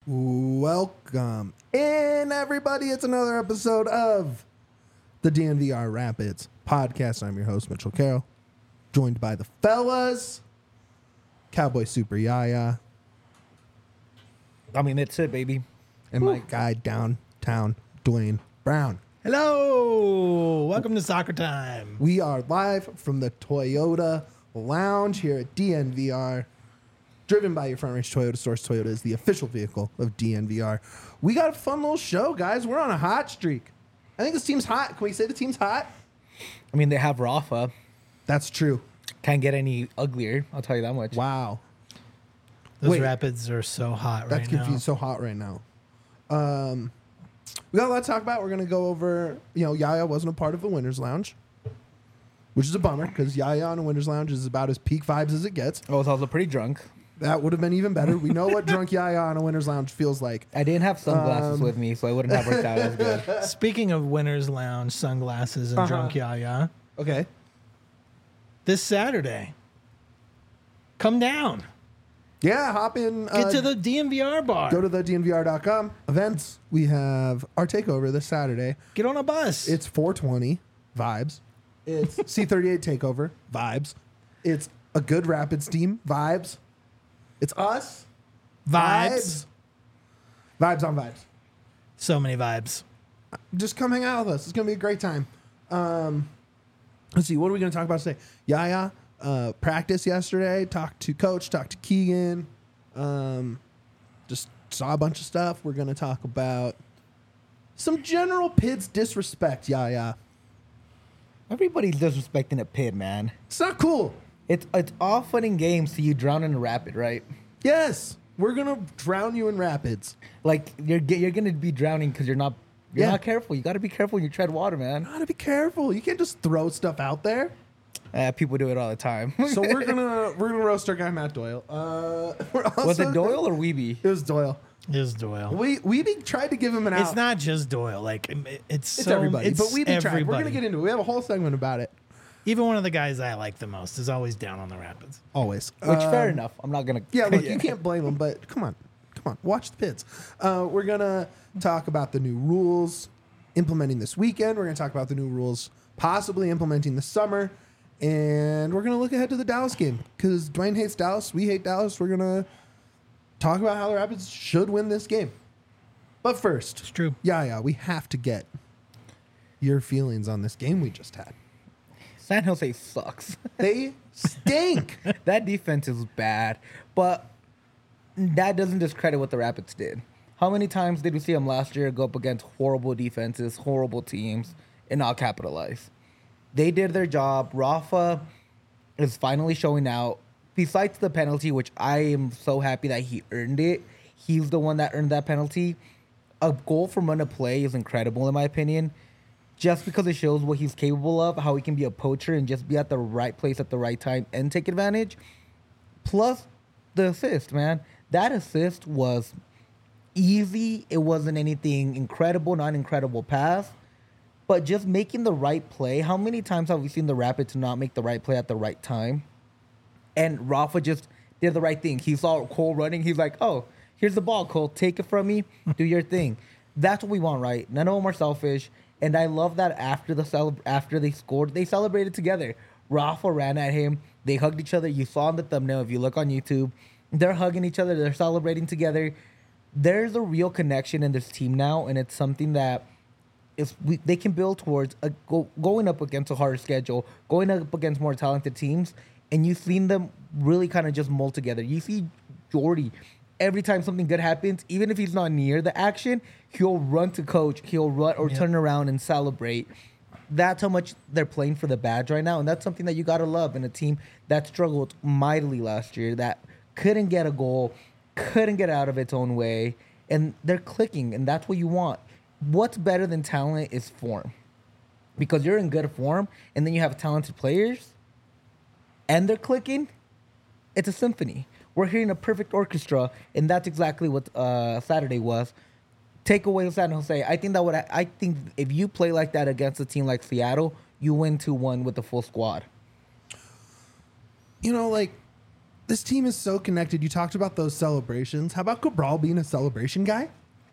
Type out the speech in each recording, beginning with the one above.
Welcome in, everybody. It's another episode of the DNVR Rapids podcast. I'm your host, Mitchell Carroll, joined by the fellas, Cowboy Super Yaya, I mean, that's it, baby. and my guy downtown, Dwayne Brown. Hello, welcome to Soccer Time. We are live from the Toyota Lounge here at DNVR. Driven by your Front Range Toyota Source. Toyota is the official vehicle of DNVR. We got a fun little show, guys. We're on a hot streak. I think this team's hot. Can we say the team's hot? I mean, they have Rafa. That's true. Can't get any uglier. I'll tell you that much. Wow. Those Wait. Rapids are so hot That's right confusing. now. So hot right now. We got a lot to talk about. We're going to go over, Yaya wasn't a part of the Winners Lounge, which is a bummer because Yaya on a Winners Lounge is about as peak vibes as it gets. I was also pretty drunk. That would have been even better. We know what drunk Yaya on a Winners Lounge feels like. I didn't have sunglasses with me, so I wouldn't have worked out as good. Speaking of Winners Lounge, sunglasses, and drunk yaya, Okay. this Saturday, come down. Yeah, hop in. Get to the DNVR bar. Go to the DNVR.com. Events. We have our takeover this Saturday. Get on a bus. It's 420 vibes. It's C38 takeover vibes. It's a good Rapids team vibes. It's us vibes. Vibes on vibes. So many vibes. Just come hang out with us. It's gonna be a great time. Let's see. What are we gonna talk about today? Yaya practice yesterday. Talked to Coach. Talked to Keegan. Just saw a bunch of stuff. We're gonna talk about some general Pids disrespect. Yaya. Everybody's disrespecting a Pid, man. It's not cool. It's all fun and games till you drown in a rapid, right? Yes, we're gonna drown you in rapids. Like you're gonna be drowning because you're not careful. You got to be careful when you tread water, man. Gotta be careful. You can't just throw stuff out there. People do it all the time. So we're gonna roast our guy Matt Doyle. We're also Was it Doyle or Weeby? It was Doyle. Is Doyle. We tried to give him an out. It's not just Doyle. Like It's so, everybody, it's but we tried. We're gonna everybody. get into it. We have a whole segment about it. Even one of the guys I like the most is always down on the Rapids. Always. Which fair enough. I'm not gonna. Yeah, look, you can't blame him, but come on, watch the Pids. We're gonna talk about the new rules implementing this weekend. We're gonna talk about the new rules possibly implementing this summer, and we're gonna look ahead to the Dallas game because Dwayne hates Dallas. We hate Dallas. We're gonna talk about how the Rapids should win this game. But first, It's true. yeah, we have to get your feelings on this game we just had. San Jose sucks. They stink. That defense is bad, but that doesn't discredit what the Rapids did. How many times did we see them last year go up against horrible defenses, horrible teams, and not capitalize? They did their job. Rafa is finally showing out. Besides the penalty, which I am so happy that he earned it, he's the one that earned that penalty. A goal from run of play is incredible, in my opinion, just because it shows what he's capable of, how he can be a poacher and just be at the right place at the right time and take advantage. Plus the assist, man. That assist was easy. It wasn't anything incredible, not an incredible pass, but just making the right play. How many times have we seen the Rapids not make the right play at the right time? And Rafa just did the right thing. He saw Cole running. He's like, oh, here's the ball, Cole. Take it from me. Do your thing. That's what we want, right? None of them are selfish. And I love that after they scored, they celebrated together. Rafa ran at him. They hugged each other. You saw in the thumbnail, if you look on YouTube, they're hugging each other. They're celebrating together. There's a real connection in this team now, and it's something that they can build towards going up against a harder schedule, going up against more talented teams, and you've seen them really kind of just mold together. You see Jordy, every time something good happens, even if he's not near the action, he'll run to coach, he'll run or turn around and celebrate. That's how much they're playing for the badge right now, and that's something that you got to love in a team that struggled mightily last year, that couldn't get a goal, couldn't get out of its own way, and they're clicking, and that's what you want. What's better than talent is form, because you're in good form, and then you have talented players, and they're clicking. It's a symphony. We're hearing a perfect orchestra, and that's exactly what Saturday was. Take away San Jose. I think if you play like that against a team like Seattle, you win 2-1 with the full squad. this team is so connected. You talked about those celebrations. How about Cabral being a celebration guy?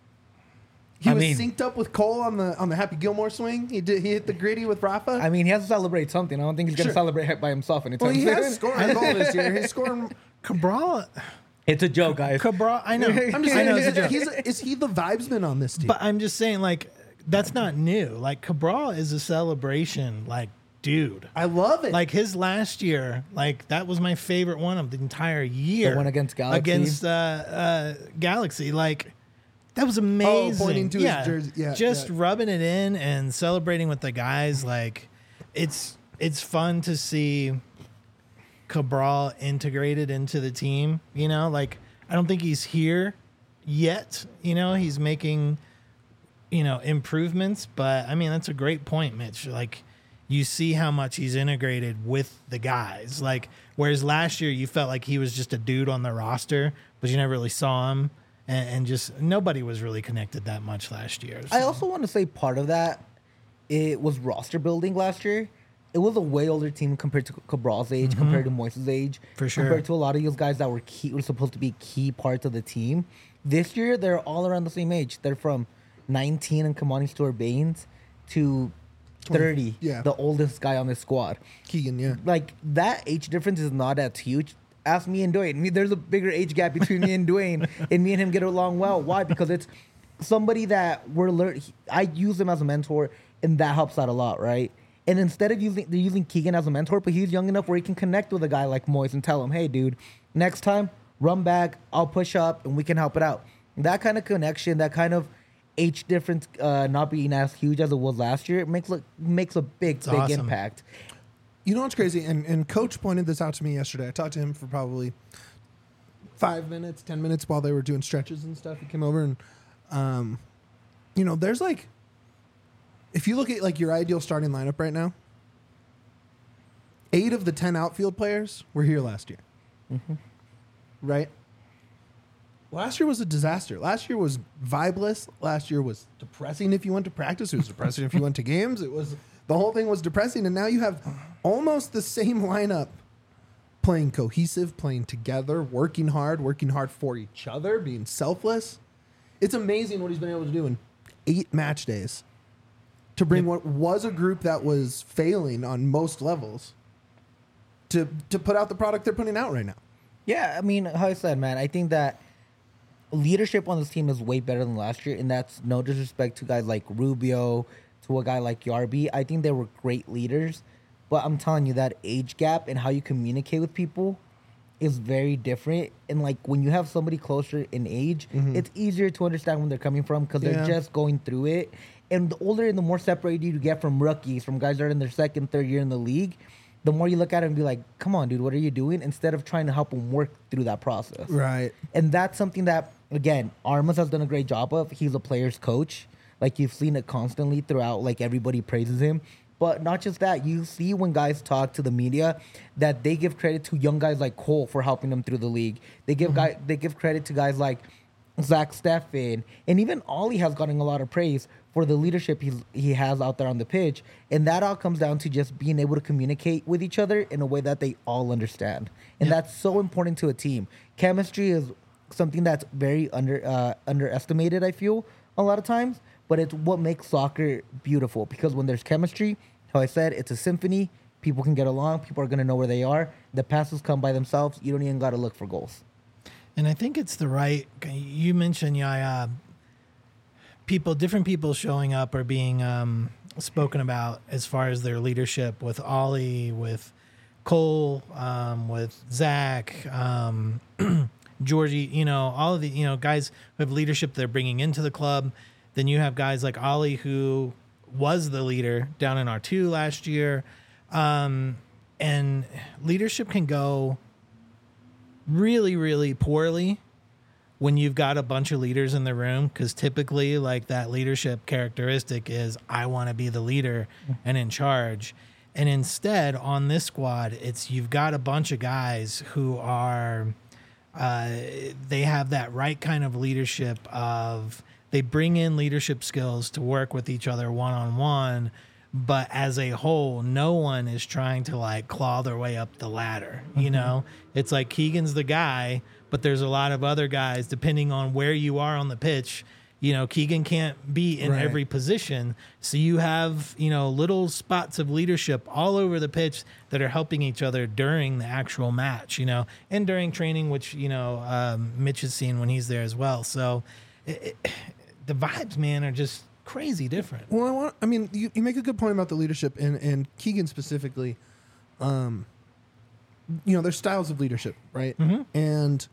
He was synced up with Cole on the Happy Gilmore swing. He hit the gritty with Rafa. I mean, he has to celebrate something. I don't think he's going to celebrate by himself anytime Well, he soon. has scored a goal this year. He's scoring. Cabral, It's a joke, guys. Cabral, I know. I'm just I saying, know it's a joke. is he the vibesman on this team? But I'm just saying, like, that's not new. Like, Cabral is a celebration, like, dude. I love it. Like, his last year, like, that was my favorite one of the entire year. The one against Galaxy? Against Galaxy. Like, that was amazing. pointing to his jersey. Yeah, just rubbing it in and celebrating with the guys. Like, it's fun to see Cabral integrated into the team. You know, like, I don't think he's here yet. You know, he's making, improvements. But, I mean, that's a great point, Mitch. Like, you see how much he's integrated with the guys. Like, whereas last year you felt like he was just a dude on the roster, but you never really saw him. And just nobody was really connected that much last year. So. I also want to say part of that, it was roster building last year. It was a way older team compared to Cabral's age, compared to Moises' age. For sure. Compared to a lot of those guys that were supposed to be key parts of the team. This year, they're all around the same age. They're from 19 and Kamani Stewart-Baines to 30, the oldest guy on this squad. Keegan, yeah. Like, that age difference is not as huge. Ask me and Dwayne. There's a bigger age gap between me and Dwayne, and me and him get along well. Why? Because it's somebody that we're learning. I use him as a mentor, and that helps out a lot, right? And instead of they're using Keegan as a mentor, but he's young enough where he can connect with a guy like Moise and tell him, hey, dude, next time, run back, I'll push up, and we can help it out. That kind of connection, that kind of age difference not being as huge as it was last year, it makes a big awesome. impact. You know what's crazy? And Coach pointed this out to me yesterday. I talked to him for probably 5 minutes, 10 minutes while they were doing stretches and stuff. He came over and, there's like, if you look at like your ideal starting lineup right now, 8 of the 10 outfield players were here last year. Mm-hmm. Right? Last year was a disaster. Last year was vibeless. Last year was depressing if you went to practice. It was depressing if you went to games. The whole thing was depressing. And now you have almost the same lineup playing cohesive, playing together, working hard for each other, being selfless. It's amazing what he's been able to do in 8 match days to bring what was a group that was failing on most levels to put out the product they're putting out right now. Yeah, I mean, how I said, man, I think that leadership on this team is way better than last year, and that's no disrespect to guys like Rubio, to a guy like Yarby. I think they were great leaders, but I'm telling you that age gap and how you communicate with people is very different. And like when you have somebody closer in age, it's easier to understand when they're coming from because they're just going through it. And the older and the more separated you get from rookies, from guys that are in their second, third year in the league, the more you look at it and be like, come on, dude, what are you doing? Instead of trying to help them work through that process. Right. And that's something that, again, Armas has done a great job of. He's a player's coach. Like, you've seen it constantly throughout. Like, everybody praises him. But not just that. You see when guys talk to the media that they give credit to young guys like Cole for helping them through the league. They give they give credit to guys like Zach Steffen. And even Ollie has gotten a lot of praise for the leadership he has out there on the pitch. And that all comes down to just being able to communicate with each other in a way that they all understand. And that's so important to a team. Chemistry is something that's very underestimated, I feel, a lot of times. But it's what makes soccer beautiful. Because when there's chemistry, how I said, it's a symphony. People can get along. People are going to know where they are. The passes come by themselves. You don't even got to look for goals. And I think it's the right. You mentioned, different people showing up or being spoken about as far as their leadership with Ollie, with Cole, with Zach, Georgie. All of the guys who have leadership they're bringing into the club. Then you have guys like Ollie, who was the leader down in R2 last year, and leadership can go really, really poorly when you've got a bunch of leaders in the room, because typically like that leadership characteristic is I want to be the leader and in charge. And instead on this squad, you've got a bunch of guys who are they have that right kind of leadership of they bring in leadership skills to work with each other one-on-one, but as a whole, no one is trying to like claw their way up the ladder. You know, it's like Keegan's the guy, but there's a lot of other guys depending on where you are on the pitch. You know, Keegan can't be in Right. every position. So you have, you know, little spots of leadership all over the pitch that are helping each other during the actual match, you know, and during training, which, you know, Mitch has seen when he's there as well. So the vibes, man, are just crazy different. Well, I mean, you make a good point about the leadership and Keegan specifically. You know, there's styles of leadership, right? And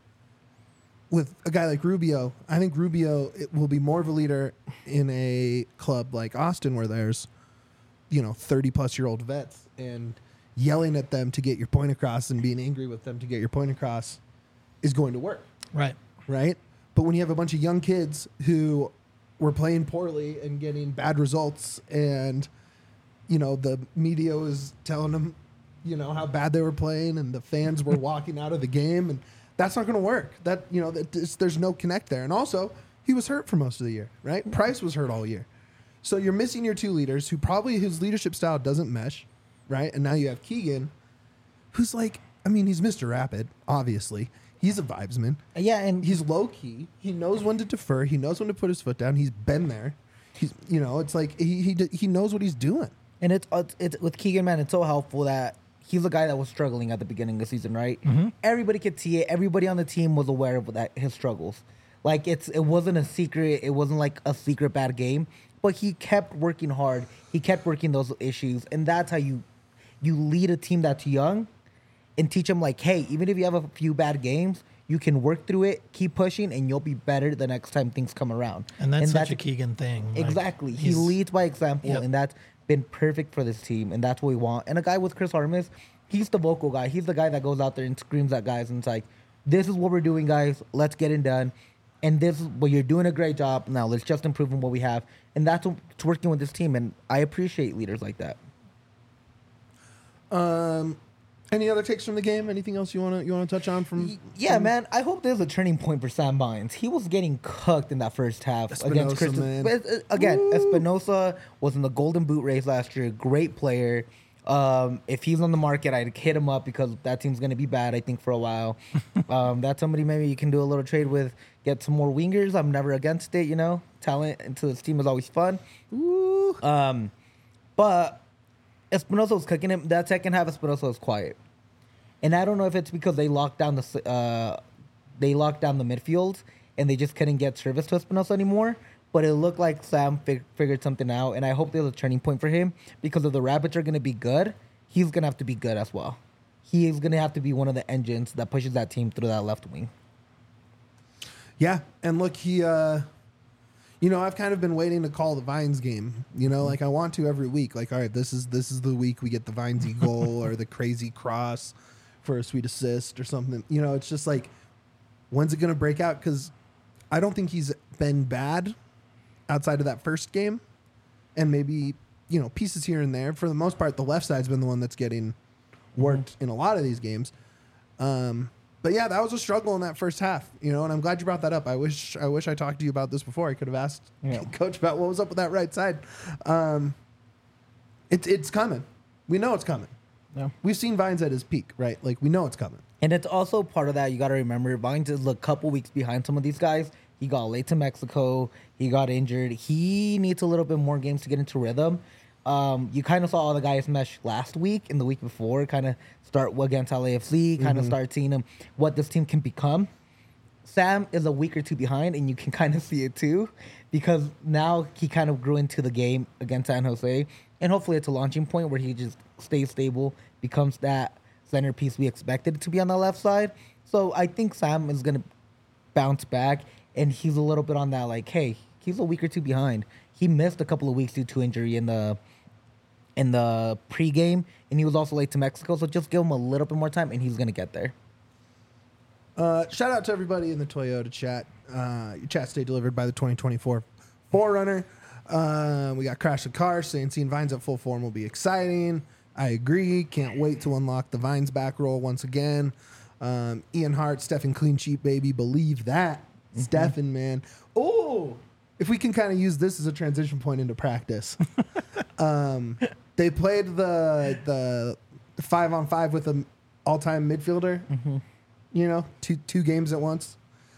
with a guy like Rubio, I think Rubio will be more of a leader in a club like Austin where there's, you know, 30-plus-year-old vets, and yelling at them to get your point across and being angry with them to get your point across is going to work, Right. right? But when you have a bunch of young kids who were playing poorly and getting bad results, and, you know, the media was telling them, you know, how bad they were playing, and the fans were walking out of the game, and that's not going to work. That, you know, there's no connect there. And also, he was hurt for most of the year, right? Price was hurt all year. So you're missing your two leaders who probably his leadership style doesn't mesh, right? And now you have Keegan, who's like, I mean, he's Mr. Rapid, obviously. He's a vibesman. Yeah, and He's low key. He knows when to defer. He knows when to put his foot down. He's been there. He's, you know, it's like he knows what he's doing. And it's with Keegan, man, it's so helpful that he's a guy that was struggling at the beginning of the season, right? Everybody could see it. Everybody on the team was aware of that, his struggles. Like, it wasn't a secret. It wasn't like a secret bad game. But he kept working hard. He kept working those issues. And that's how you lead a team that's young and teach them, like, hey, even if you have a few bad games, you can work through it, keep pushing, and you'll be better the next time things come around. And that's such a Keegan thing. Like, Exactly. He he's- leads by example, Yep. and that's been perfect for this team, and that's what we want. And a guy with Chris Armas, he's the vocal guy. He's the guy that goes out there and screams at guys, and it's like, this is what we're doing, guys. Let's get it done. And this is what you're doing a great job. Now let's just improve on what we have. And that's what's working with this team, and I appreciate leaders like that. Any other takes from the game? Anything else you want to touch on from? Yeah, man. I hope there's a turning point for Sam Bynes. He was getting cooked in that first half against Espinosa, Crystal. man. But, again, Espinosa was in the Golden Boot race last year. Great player. If he's on the market, I'd hit him up because that team's going to be bad, I think, for a while. That's somebody maybe you can do a little trade with, get some more wingers. I'm never against it, you know. Talent into this team is always fun. Ooh. But Espinosa was cooking him. That second half, Espinosa was quiet. And I don't know if it's because they locked down the midfield and they just couldn't get service to Espinosa anymore. But it looked like Sam figured something out, and I hope there's a turning point for him because if the Rabbits are going to be good, he's going to have to be good as well. He is going to have to be one of the engines that pushes that team through that left wing. Yeah, and look, he, you know, I've kind of been waiting to call the Vines game. You know, like I want to every week. Like, all right, this is the week we get the Vinesy goal or the crazy cross for a sweet assist or something. You know, it's just like, when's it going to break out? Because I don't think he's been bad outside of that first game, and maybe, you know, pieces here and there. For the most part, the left side's been the one that's getting worked in a lot of these games. But yeah, that was a struggle in that first half, you know, and I'm glad you brought that up. I wish I talked to you about this before. I could have asked Coach about what was up with that right side. It's coming. We know it's coming. Yeah. We've seen Vines at his peak, right? Like, we know it's coming. And it's also part of that. You got to remember, Vines is a couple weeks behind some of these guys. He got late to Mexico. He got injured. He needs a little bit more games to get into rhythm. You kind of saw all the guys mesh last week and the week before, kind of start against LAFC, kind of start seeing them, what this team can become. Sam is a week or two behind, and you can kind of see it too, because now he kind of grew into the game against San Jose, and hopefully it's a launching point where he just stays stable, becomes that centerpiece we expected it to be on the left side. So I think Sam is going to bounce back, and he's a little bit on that, like, hey, he's a week or two behind. He missed a couple of weeks due to injury in the pregame, and he was also late to Mexico, so just give him a little bit more time, and he's going to get there. Shout out to everybody in the Toyota chat. Your chat stay delivered by the 2024 4Runner. We got Crash the Car saying seeing Vines at full form will be exciting. I agree. Can't wait to unlock the Vines back roll once again. Ian Hart, Stefan Clean Sheet, baby. Believe that. Stefan, man. Oh, if we can kind of use this as a transition point into practice. They played the 5-on-5 with an all-time midfielder. Mm-hmm. You know, two games at once.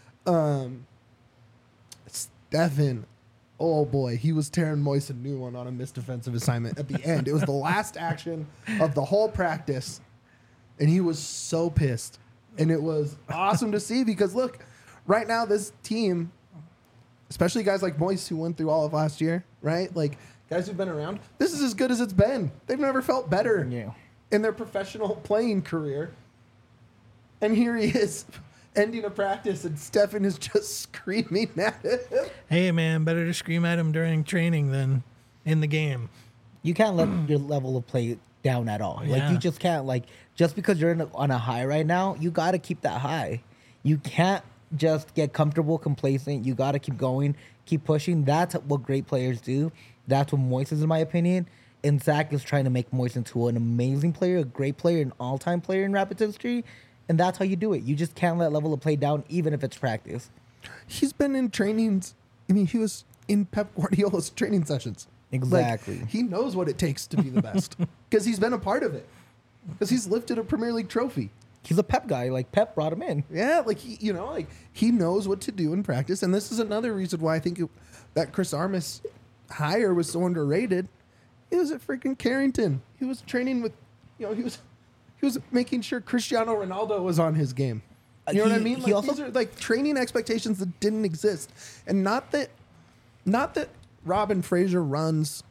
Stefan, oh boy, he was tearing Moise a new one on a missed defensive assignment at the end. It was the last action of the whole practice, and he was so pissed. And it was awesome to see because, look, right now this team, especially guys like Moise who went through all of last year, right? Like, guys who've been around, this is as good as it's been. They've never felt better in their professional playing career. And here he is ending a practice, and Stefan is just screaming at him. Hey, man, better to scream at him during training than in the game. You can't let your level of play down at all. Like, Yeah. you just can't, like, just because you're on a high right now, you got to keep that high. You can't just get comfortable, complacent. You got to keep going, keep pushing. That's what great players do. That's what Moise is, in my opinion. And Zach is trying to make Moise into an amazing player, a great player, an all-time player in Rapids history. And that's how you do it. You just can't let level of play down, even if it's practice. He's been in trainings. I mean, he was in Pep Guardiola's training sessions. Exactly. Like, he knows what it takes to be the best because he's been a part of it. Because he's lifted a Premier League trophy. He's a Pep guy. Like, Pep brought him in. Yeah, like he knows what to do in practice, and this is another reason why I think that Chris Armas hire was so underrated. He was at freaking Carrington. He was training with, he was making sure Cristiano Ronaldo was on his game. You know what I mean? Like, these are like training expectations that didn't exist, and not that Robin Fraser runs,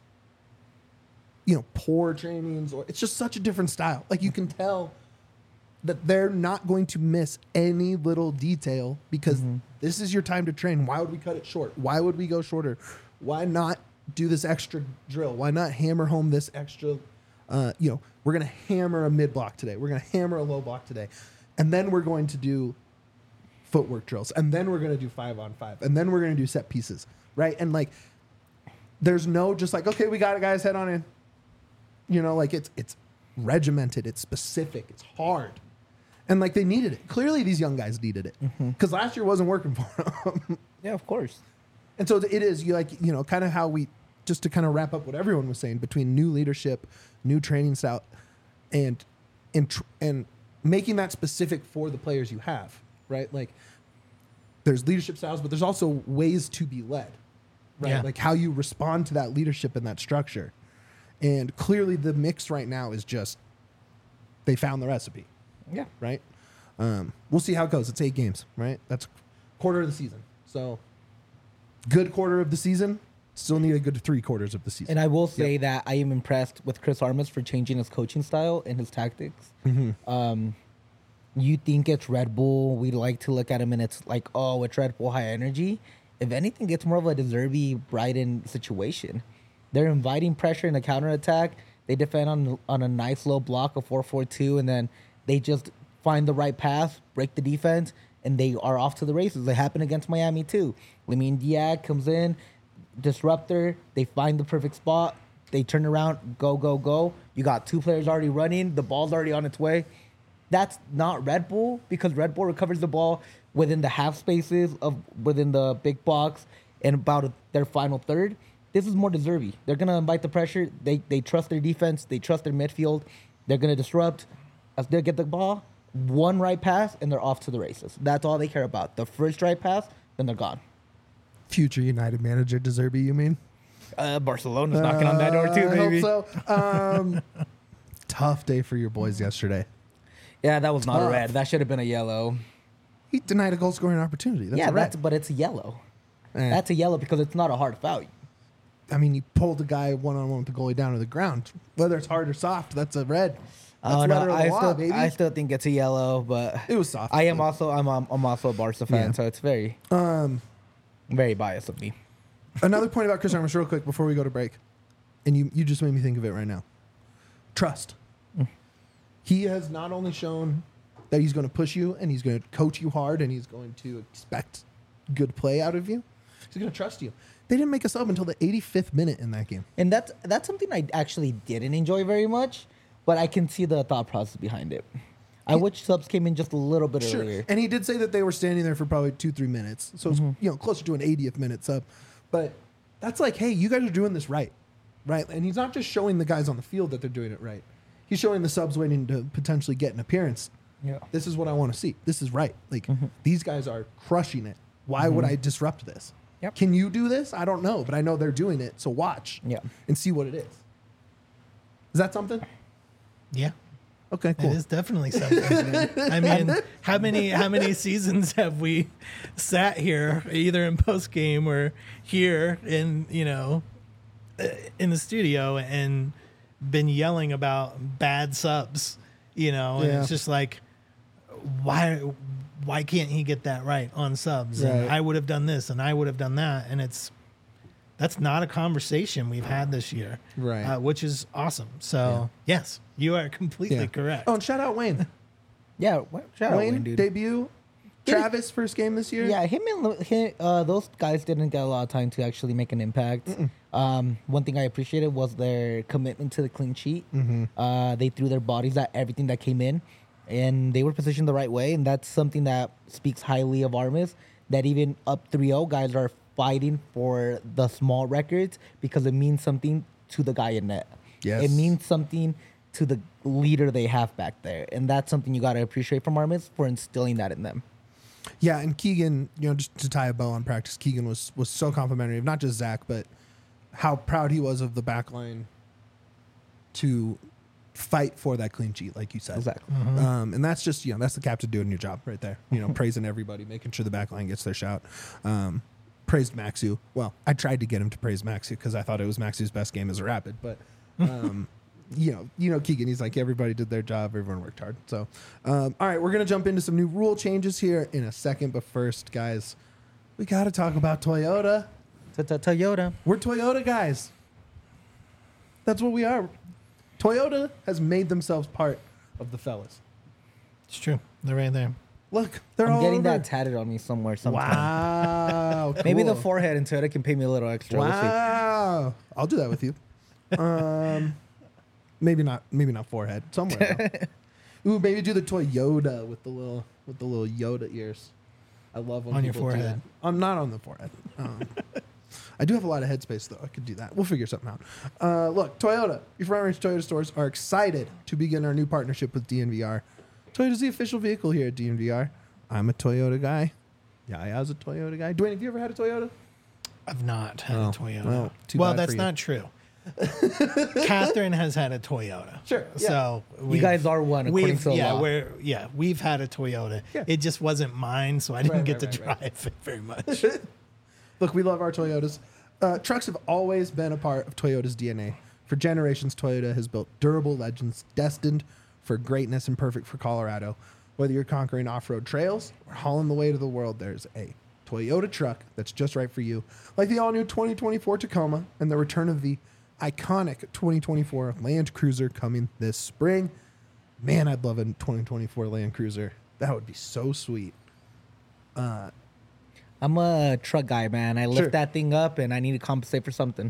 poor trainings, or it's just such a different style. Like, you can tell that they're not going to miss any little detail because this is your time to train. Why would we cut it short? Why would we go shorter? Why not do this extra drill? Why not hammer home this extra, we're going to hammer a mid block today. We're going to hammer a low block today. And then we're going to do footwork drills. And then we're going to do 5-on-5. And then we're going to do set pieces, right? And like, there's no just like, okay, we got it, guys, head on in. It's regimented. It's specific. It's hard. And like, they needed it. Clearly these young guys needed it because last year wasn't working for them. Yeah, of course. And so it is kind of how we, just to kind of wrap up what everyone was saying, between new leadership, new training style, and making that specific for the players you have, right? Like, there's leadership styles, but there's also ways to be led, right? Yeah. Like how you respond to that leadership and that structure. And clearly the mix right now is just, they found the recipe. Yeah. Right? We'll see how it goes. It's 8 games, right? That's quarter of the season. So good quarter of the season. Still need a good 3 quarters of the season. And I will say that I am impressed with Chris Armas for changing his coaching style and his tactics. You think it's Red Bull. We like to look at him and it's like, oh, it's Red Bull high energy. If anything, it's more of a De Zerbi Brighton situation. They're inviting pressure in the counterattack. They defend on a nice low block of 4-4-2, and then they just find the right pass, break the defense, and they are off to the races. It happened against Miami too. Lamine Diaz comes in, disruptor. They find the perfect spot. They turn around, go, go, go. You got 2 players already running. The ball's already on its way. That's not Red Bull because Red Bull recovers the ball within the half spaces within the big box and about their final third. This is more De Zerbi. They're going to invite the pressure. They trust their defense. They trust their midfield. They're going to disrupt. As they get the ball, 1 right pass, and they're off to the races. That's all they care about. The first right pass, then they're gone. Future United manager De Zerbi, you mean? Barcelona's knocking on that door too, baby. I hope so. Tough day for your boys yesterday. Yeah, that was not a Tough. red. That should have been a yellow. He denied a goal scoring opportunity. That's a red. But it's a yellow. Eh. That's a yellow because it's not a hard foul. I mean, you pulled the guy one-on-one with the goalie down to the ground. Whether it's hard or soft, that's a red. That's letter of the law, baby. I still think it's a yellow, but It was soft. I'm also a Barca fan, Yeah. so it's very very biased of me. Another point about Chris Armas real quick before we go to break. And you just made me think of it right now. Trust. He has not only shown that he's going to push you and he's going to coach you hard and he's going to expect good play out of you. He's going to trust you. They didn't make a sub until the 85th minute in that game. And that's something I actually didn't enjoy very much, but I can see the thought process behind it. I wish subs came in just a little bit earlier. And he did say that they were standing there for probably 2-3 minutes. So it's closer to an 80th minute sub. But that's like, hey, you guys are doing this right. right? And he's not just showing the guys on the field that they're doing it right. He's showing the subs waiting to potentially get an appearance. Yeah. This is what I want to see. This is right. Like, these guys are crushing it. Why would I disrupt this? Yep. Can you do this? I don't know, but I know they're doing it. So watch and see what it is. Is that something? Yeah. Okay, cool. It is definitely something. I mean, how many seasons have we sat here, either in post game or here in in the studio, and been yelling about bad subs, and it's just like, why can't he get that right on subs? Right. And I would have done this and I would have done that, and that's not a conversation we've had this year, Right. which is awesome. So yes, you are completely correct. Oh, and shout out Wayne. Yeah, shout out Wayne, Wayne, dude. debut. Travis, first game this year. Yeah, him those guys didn't get a lot of time to actually make an impact. One thing I appreciated was their commitment to the clean sheet. They threw their bodies at everything that came in, and they were positioned the right way, and that's something that speaks highly of Armis, that even up 3-0 guys are fighting for the small records because it means something to the guy in net. Yes. It means something to the leader they have back there, and that's something you got to appreciate from Armis for instilling that in them. Yeah, and Keegan, just to tie a bow on practice, Keegan was so complimentary of not just Zach, but how proud he was of the back line to fight for that clean sheet, like you said. Exactly. And that's just, that's the captain doing your job right there. Praising everybody, making sure the back line gets their shout. Praised Maxu. Well, I tried to get him to praise Maxu because I thought it was Maxu's best game as a Rapid, but Keegan, he's like, everybody did their job, everyone worked hard. So, all right, we're going to jump into some new rule changes here in a second. But first, guys, we got to talk about Toyota. Toyota. We're Toyota guys. That's what we are. Toyota has made themselves part of the fellas. It's true. They're right there. Look, they're I'm all getting over. that tatted on me somewhere sometime. Wow. Maybe the cool. forehead and Toyota can pay me a little extra. We'll see. Wow. I'll do that with you. Maybe not forehead. Somewhere else. Ooh, maybe do the Toyota with the little Yoda ears. I love when On your people do forehead. that. I'm not on the forehead. I do have a lot of headspace though. I could do that. We'll figure something out. Look, Toyota. Your Front Range Toyota stores are excited to begin our new partnership with DNVR. Toyota's the official vehicle here at DNVR. I'm a Toyota guy. Yaya's a Toyota guy. Dwayne, have you ever had a Toyota? I've not had Oh, a Toyota. well, too bad That's for you. not true. Catherine has had a Toyota. Sure, yeah. So You guys are one according to the law. we've had a Toyota. Yeah. It just wasn't mine, so I didn't Right, get right, to right, drive it very much. Look, we love our Toyotas. Trucks have always been a part of Toyota's DNA. For generations, Toyota has built durable legends destined for greatness and perfect for Colorado. Whether you're conquering off-road trails or hauling the way to the world, there's a Toyota truck that's just right for you. Like the all-new 2024 Tacoma and the return of the iconic 2024 Land Cruiser coming this spring. Man, I'd love a 2024 Land Cruiser. That would be so sweet. I'm a truck guy, man. I lift Sure. that thing up and I need to compensate for something.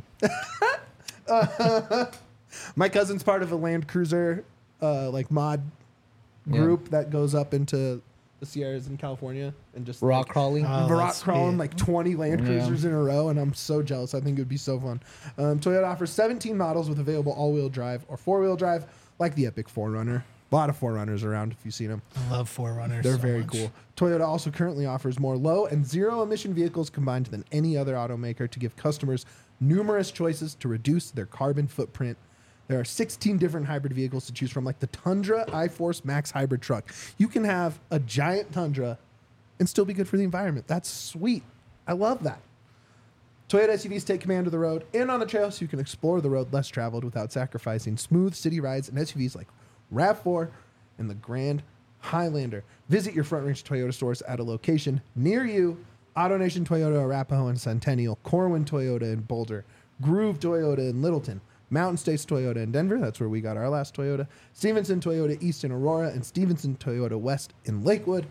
My cousin's part of a Land Cruiser mod group that goes up into the Sierras in California and just Rock crawling. Oh, rock that's crawling sweet. like 20 Land Yeah. Cruisers in a row, and I'm so jealous. I think it would be so fun. Toyota offers 17 models with available all-wheel drive or four-wheel drive, like the Epic 4Runner. A lot of 4Runners around if you've seen them. I love 4Runners. They're so very much. cool. Toyota also currently offers more low and zero emission vehicles combined than any other automaker to give customers numerous choices to reduce their carbon footprint. There are 16 different hybrid vehicles to choose from, like the Tundra iForce Max hybrid truck. You can have a giant Tundra and still be good for the environment. That's sweet. I love that. Toyota SUVs take command of the road and on the trail so you can explore the road less traveled without sacrificing smooth city rides and SUVs like RAV4 and the Grand Highlander. Visit your Front Range Toyota stores at a location near you. AutoNation Toyota Arapahoe and Centennial, Corwin Toyota in Boulder, Groove Toyota in Littleton, Mountain States Toyota in Denver, that's where we got our last Toyota, Stevenson Toyota East in Aurora, and Stevenson Toyota West in Lakewood.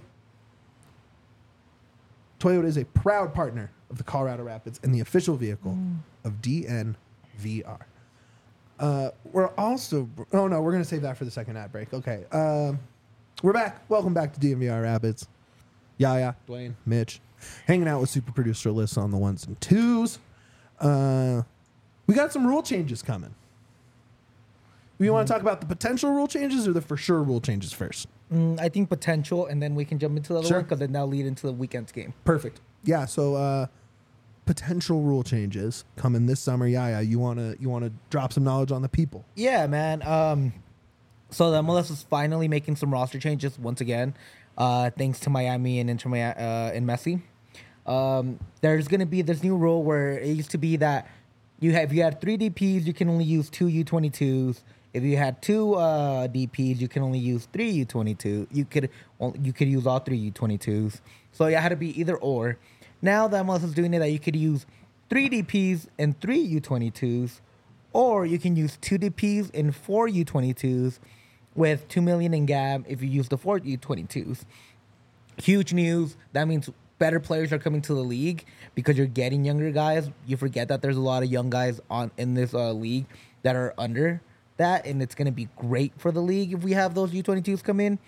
Toyota is a proud partner of the Colorado Rapids and the official vehicle of DNVR. We're also... Oh, no, we're going to save that for the second ad break. Okay. We're back. Welcome back to DNVR Rapids. Yaya, Dwayne, Mitch, hanging out with super producer Alyssa on the ones and twos. We got some rule changes coming. We want to talk about the potential rule changes or the for sure rule changes first? I think potential, and then we can jump into the other Sure. one because it now lead into the weekend's game. Perfect. Yeah. So potential rule changes coming this summer. Yeah. You wanna drop some knowledge on the people? Yeah, man. So the MLS is finally making some roster changes once again, thanks to Miami and Inter Miami and Messi. There's gonna be this new rule where it used to be that if you had 3 DPs, you can only use 2 U22s. If you had 2 DPs, you can only use 3 U22. You could use all 3 U22s. So it had to be either or. Now the MLS is doing it that you could use 3 DPs and 3 U22s, or you can use 2 DPs and 4 U22s with $2 million in GAB if you use the 4 U22s. Huge news. That means better players are coming to the league because you're getting younger guys. You forget that there's a lot of young guys in this league that are under that, and it's going to be great for the league if we have those U22s come in.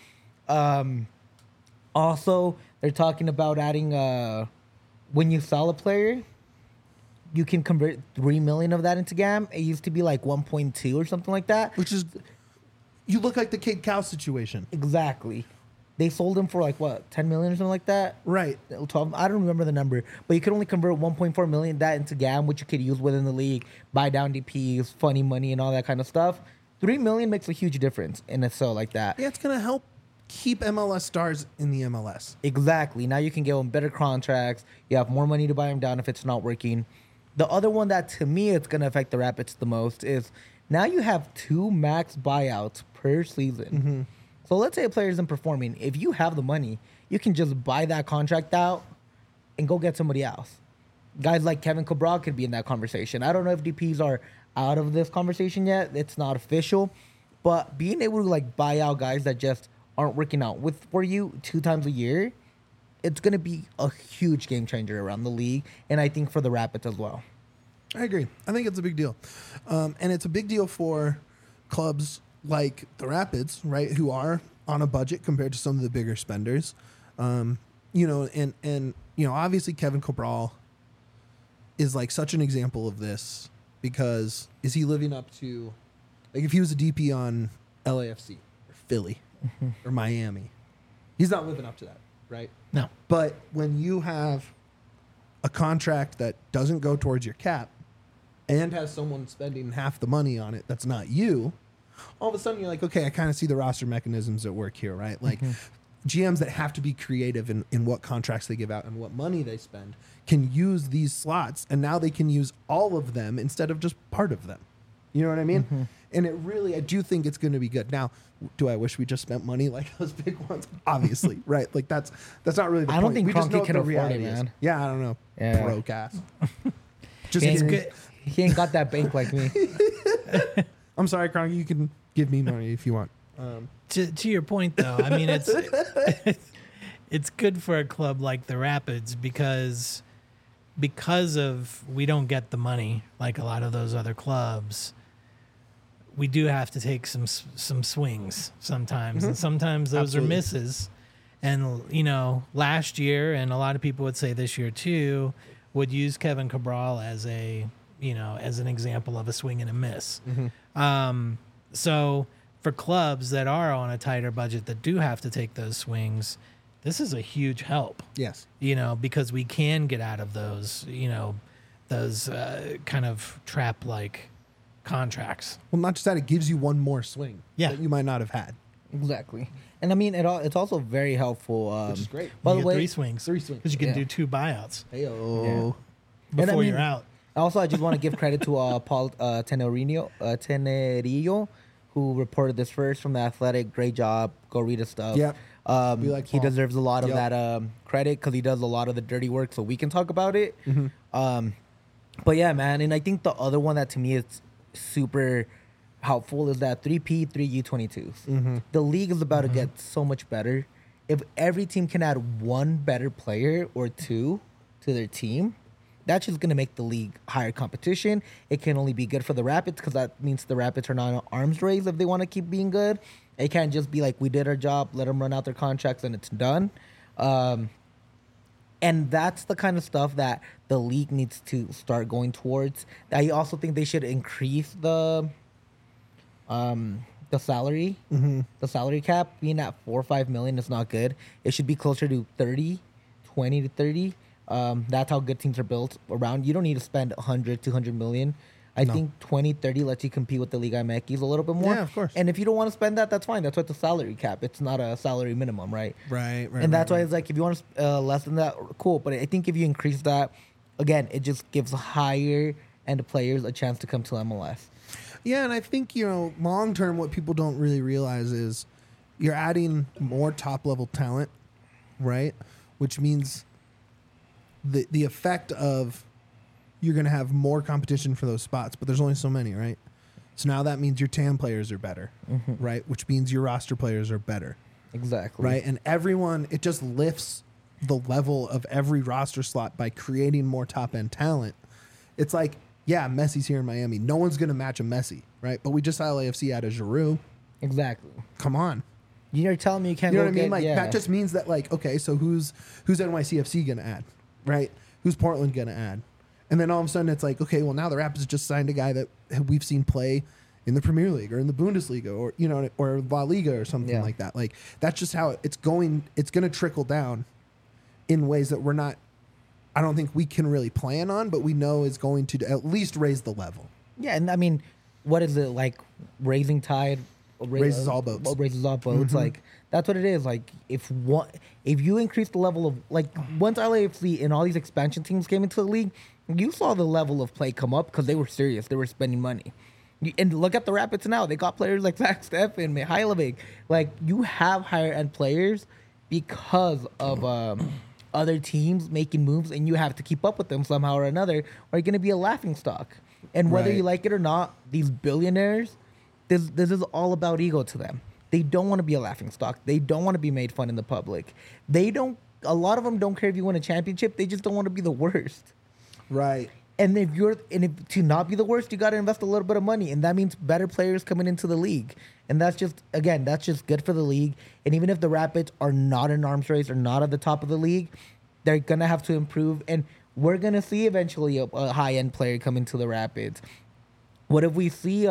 Also, they're talking about adding when you sell a player, you can convert 3 million of that into GAM. It used to be like 1.2 or something like that. Which is, you look like the Kid Cow situation. Exactly. They sold him for like what, 10 million or something like that? Right. 12. I don't remember the number, but you could only convert 1.4 million that into GAM, which you could use within the league, buy down DPs, funny money, and all that kind of stuff. 3 million makes a huge difference in a sell like that. Yeah, it's gonna help keep MLS stars in the MLS. Exactly. Now you can give them better contracts. You have more money to buy them down if it's not working. The other one that to me it's gonna affect the Rapids the most is now you have 2 max buyouts per season. Mm-hmm. So let's say a player isn't performing. If you have the money, you can just buy that contract out and go get somebody else. Guys like Kevin Cabral could be in that conversation. I don't know if DPs are out of this conversation yet. It's not official. But being able to like buy out guys that just aren't working out for you 2 times a year, it's going to be a huge game changer around the league. And I think for the Rapids as well. I agree. I think it's a big deal. And it's a big deal for clubs like the Rapids, right, who are on a budget compared to some of the bigger spenders. You know, and you know, obviously Kevin Cabral is like such an example of this because is he living up to, like if he was a DP on LAFC or Philly or Miami, he's not living up to that, right? No. But when you have a contract that doesn't go towards your cap and has someone spending half the money on it that's not you, all of a sudden you're like, okay, I kind of see the roster mechanisms at work here, right? Like GMs that have to be creative in what contracts they give out and what money they spend can use these slots, and now they can use all of them instead of just part of them. You know what I mean? And it really, I do think it's going to be good. Now, do I wish we just spent money like those big ones? Obviously, right? Like that's not really the point. I don't think We just know Kroenke what can the afford it, reality is. man. Yeah, I don't know. Yeah. Broke ass. Just He kidding. ain't, he ain't got that bank like me. I'm sorry, Kroenke. You can give me money if you want. To your point, though, I mean, it's good for a club like the Rapids because of we don't get the money like a lot of those other clubs. We do have to take some swings sometimes, and sometimes those Absolutely. are misses. And you know, last year, and a lot of people would say this year too, would use Kevin Cabral as as an example of a swing and a miss. So for clubs that are on a tighter budget that do have to take those swings, this is a huge help. Yes. Because we can get out of those, those kind of trap-like contracts. Well, not just that, it gives you one more swing Yeah. that you might not have had. Exactly. And I mean, it's also very helpful. Which is great. By You the get way, 3 swings. 3 swings. Because you can Yeah. do 2 buyouts Heyo. And I before mean- you're out. Also, I just want to give credit to Paul Tenerillo, who reported this first from The Athletic. Great job. Go read his stuff. Yep. We like He Paul. deserves a lot of Yep. that credit because he does a lot of the dirty work, so we can talk about it. Mm-hmm. But yeah, man, and I think the other one that to me is super helpful is that 3P, 3U22s. Mm-hmm. The league is about to get so much better. If every team can add 1 better player or 2 to their team, that's just going to make the league higher competition. It can only be good for the Rapids because that means the Rapids are not in an arms race if they want to keep being good. It can't just be like, we did our job, let them run out their contracts, and it's done. And And that's the kind of stuff that the league needs to start going towards. I also think they should increase the salary. The salary cap being at 4 or 5 million is not good. It should be closer to 20 to 30. That's how good teams are built around. You don't need to spend 100, 200 million. I think 20, 30 lets you compete with the Liga MX a little bit more. Yeah, of course. And if you don't want to spend that, that's fine. That's what the salary cap. It's not a salary minimum, right? Right. And that's why it's like, if you want to less than that, cool. But I think if you increase that, again, it just gives higher end players a chance to come to MLS. Yeah, and I think, long term, what people don't really realize is you're adding more top level talent, right? Which means the effect of you're going to have more competition for those spots, but there's only so many, right? So now that means your TAM players are better, right? Which means your roster players are better. Exactly. Right? And everyone, it just lifts the level of every roster slot by creating more top-end talent. It's like, yeah, Messi's here in Miami. No one's going to match a Messi, right? But we just saw LAFC add a Giroud. Exactly. Come on. You're telling me you can't You know go what I mean? get- Like, yeah. that just means that, like, okay, so who's NYCFC going to add, right? Who's Portland going to add? And then all of a sudden it's like, okay, well, now the Rapids just signed a guy that we've seen play in the Premier League or in the Bundesliga or, or La Liga or something like that. Like, that's just how it's going. It's going to trickle down in ways that I don't think we can really plan on, but we know is going to at least raise the level. Yeah, and I mean, what is it like? Raising tide Raises all boats. Raises all boats. Like, that's what it is. Like, if you increase the level of, like, once LAFC and all these expansion teams came into the league, you saw the level of play come up because they were serious. They were spending money. And look at the Rapids now. They got players like Zach Steffen, Mihailovic. Like, you have higher end players because of other teams making moves, and you have to keep up with them somehow or another, or you're going to be a laughing stock. And whether you like it or not, these billionaires, this is all about ego to them. They don't want to be a laughing stock. They don't want to be made fun in the public. A lot of them don't care if you win a championship. They just don't want to be the worst. Right. And if to not be the worst, you got to invest a little bit of money, and that means better players coming into the league. And that's just good for the league. And even if the Rapids are not in arms race or not at the top of the league, they're gonna have to improve, and we're gonna see eventually a high end player come into the Rapids. What if we see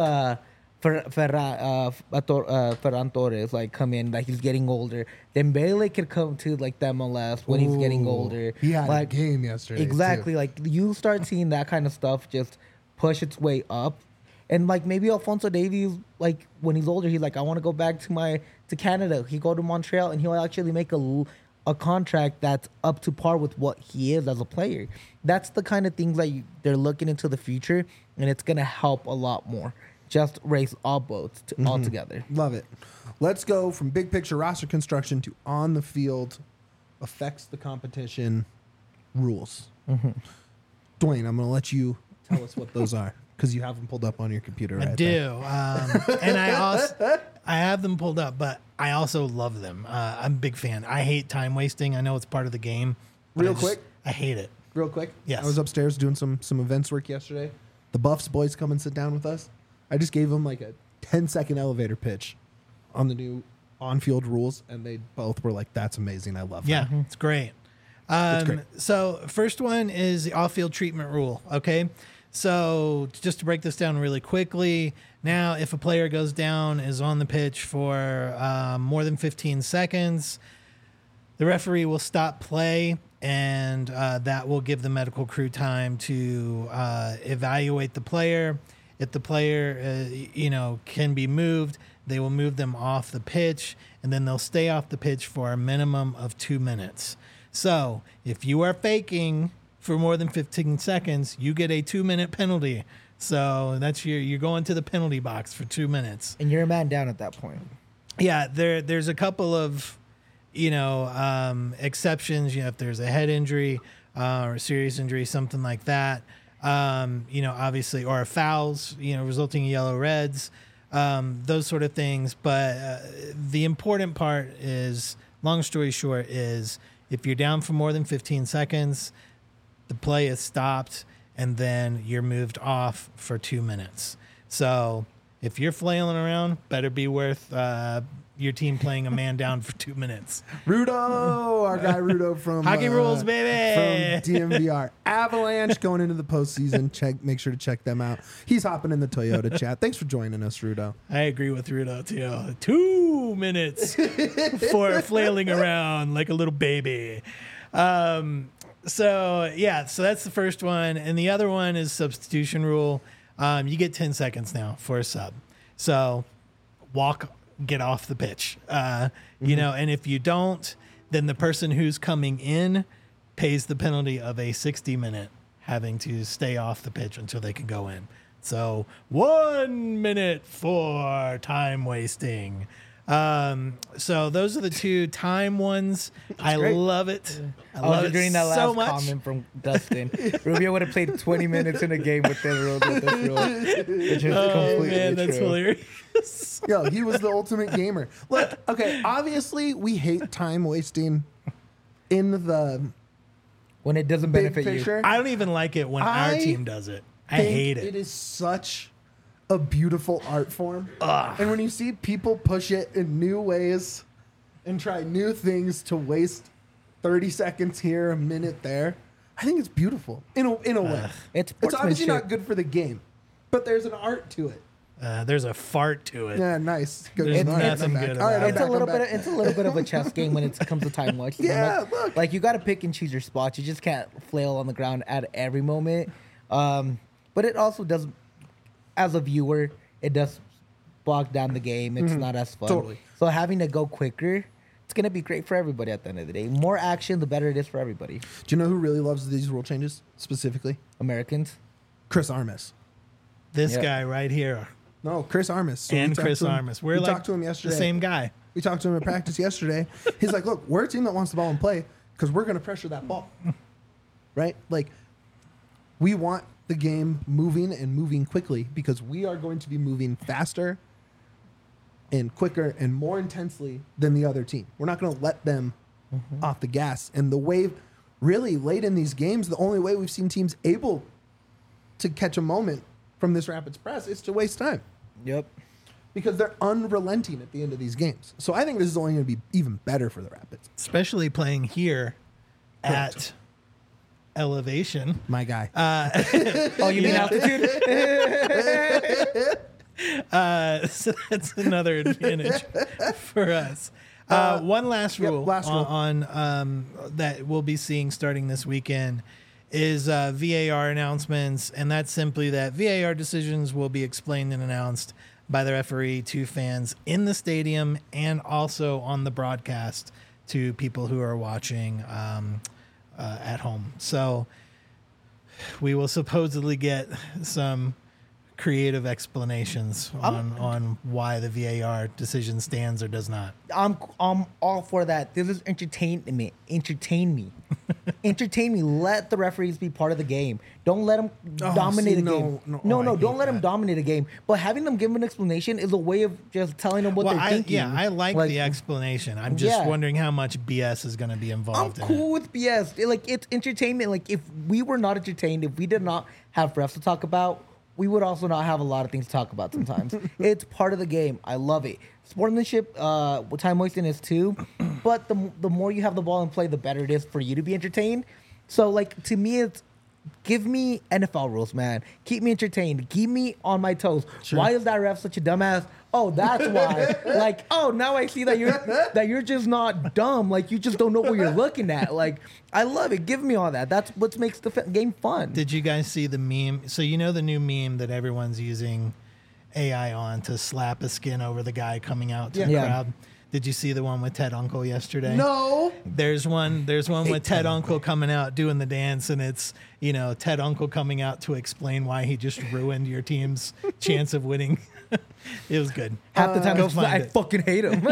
Ferran Torres like come in, like he's getting older? Dembele could come to like the MLS when he's getting older. He had like, a game yesterday. Exactly. too. Like, you start seeing that kind of stuff just push its way up. And like, maybe Alphonso Davies, like, when he's older, he's like, I want to go back to Canada. He go to Montreal and he'll actually make a contract that's up to par with what he is as a player. That's the kind of things that they're looking into the future, and it's going to help a lot more. Just raise all boats all together. Love it. Let's go from big picture roster construction to on the field affects the competition rules. Dwayne, I'm going to let you tell us what those are, because you have them pulled up on your computer right I there. do. And I have them pulled up, but I also love them. I'm a big fan. I hate time wasting. I know it's part of the game. But Real quick? I hate it. Real quick. Yes. I was upstairs doing some events work yesterday. The Buffs boys come and sit down with us. I just gave them like a 10-second elevator pitch on the new on-field rules, and they both were like, that's amazing. I love Yeah, that. it's great. great. So first one is the off-field treatment rule. Okay, so just to break this down really quickly, now if a player goes down, is on the pitch for more than 15 seconds, the referee will stop play, and that will give the medical crew time to evaluate the player. If the player, can be moved, they will move them off the pitch, and then they'll stay off the pitch for a minimum of 2 minutes. So if you are faking for more than 15 seconds, you get a 2-minute penalty. So that's you're going to the penalty box for 2 minutes. And you're a man down at that point. Yeah, there's a couple of, exceptions. If there's a head injury or a serious injury, something like that. Obviously, or fouls, resulting in yellow reds, those sort of things. But the important part is, long story short, is if you're down for more than 15 seconds, the play is stopped, and then you're moved off for 2 minutes. So if you're flailing around, better be worth your team playing a man down for 2 minutes. Rudo, our guy Rudo from Hockey Rules, baby! from DMVR. Avalanche going into the postseason. Make sure to check them out. He's hopping in the Toyota chat. Thanks for joining us, Rudo. I agree with Rudo too. 2 minutes for flailing around like a little baby. So that's the first one, and the other one is substitution rule. You get 10 seconds now for a sub. So get off the pitch. You know, and if you don't, then the person who's coming in pays the penalty of a 60-minute having to stay off the pitch until they can go in. So 1 minute for time wasting. So those are the two time ones. I great. love it. I was love it agreeing that so last much. comment from Dustin. Rubio would have played 20 minutes in a game with this rule. Which is Oh completely man, that's true. hilarious. Yo, he was the ultimate gamer. Look, okay, obviously we hate time wasting in the When it doesn't big benefit you. picture. I don't even like it when our I team does it. I think hate it. It is such a beautiful art form. And when you see people push it in new ways and try new things to waste 30 seconds here, a minute there, I think it's beautiful in a way. It's It's obviously sportsmanship. not good for the game, but there's an art to it. There's a fart to it. Yeah, nice. Good. There's All right, nothing I'm back. good All right, about I'm it. It's back, a little I'm bit. back. It's a little bit of a chess game when it comes to time watching. Yeah, look. Like you got to pick and choose your spots. You just can't flail on the ground at every moment. But it also does, as a viewer, it does bog down the game. It's not as fun. Totally. So having to go quicker, it's gonna be great for everybody at the end of the day. More action, the better it is for everybody. Do you know who really loves these rule changes specifically? Americans. Chris Armas. This Yeah. guy right here No, Chris Armas. So we and talked Chris to him- Armas. We're we like talked to him yesterday. the same guy. We talked to him at practice yesterday. He's like, look, we're a team that wants the ball in play because we're going to pressure that ball. Right? Like, we want the game moving and moving quickly because we are going to be moving faster and quicker and more intensely than the other team. We're not going to let them off the gas. And the way, really, late in these games, the only way we've seen teams able to catch a moment from this Rapids press is to waste time. Yep. Because they're unrelenting at the end of these games. So I think this is only going to be even better for the Rapids. Especially playing here Correct. at elevation. My guy. Oh, you mean altitude? So that's another advantage for us. One last yep, rule, last rule. on that we'll be seeing starting this weekend is VAR announcements, and that's simply that VAR decisions will be explained and announced by the referee to fans in the stadium and also on the broadcast to people who are watching at home. So we will supposedly get some creative explanations on why the VAR decision stands or does not. I'm all for that. This is entertainment. Entertain me. Entertain me. Let the referees be part of the game. Don't let them dominate see, a no, game. no, No, I don't hate let them that. dominate a game. But having them give an explanation is a way of just telling them what they're thinking. I like the explanation. I'm just Yeah. wondering how much BS is going to be I'm involved in cool it. with BS. Like, it's entertainment. Like, if we were not entertained, if we did not have refs to talk about, we would also not have a lot of things to talk about sometimes. It's part of the game. I love it. Sportsmanship, time wasting is too. But the more you have the ball in play, the better it is for you to be entertained. So, like, to me, it's give me NFL rules, man. Keep me entertained. Keep me on my toes. Why is that ref such a dumbass? Oh, that's why. Like, oh, now I see that you're just not dumb. Like, you just don't know what you're looking at. Like, I love it. Give me all that. That's what makes the game fun. Did you guys see the meme? So you know the new meme that everyone's using AI on to slap a skin over the guy coming out to the Yeah. crowd? Did you see the one with Ted Uncle yesterday? No. There's one with Ted Uncle coming out doing the dance, and it's, Ted Uncle coming out to explain why he just ruined your team's chance of winning. It was good. Half the time, Go it's just, find I it. fucking hate him.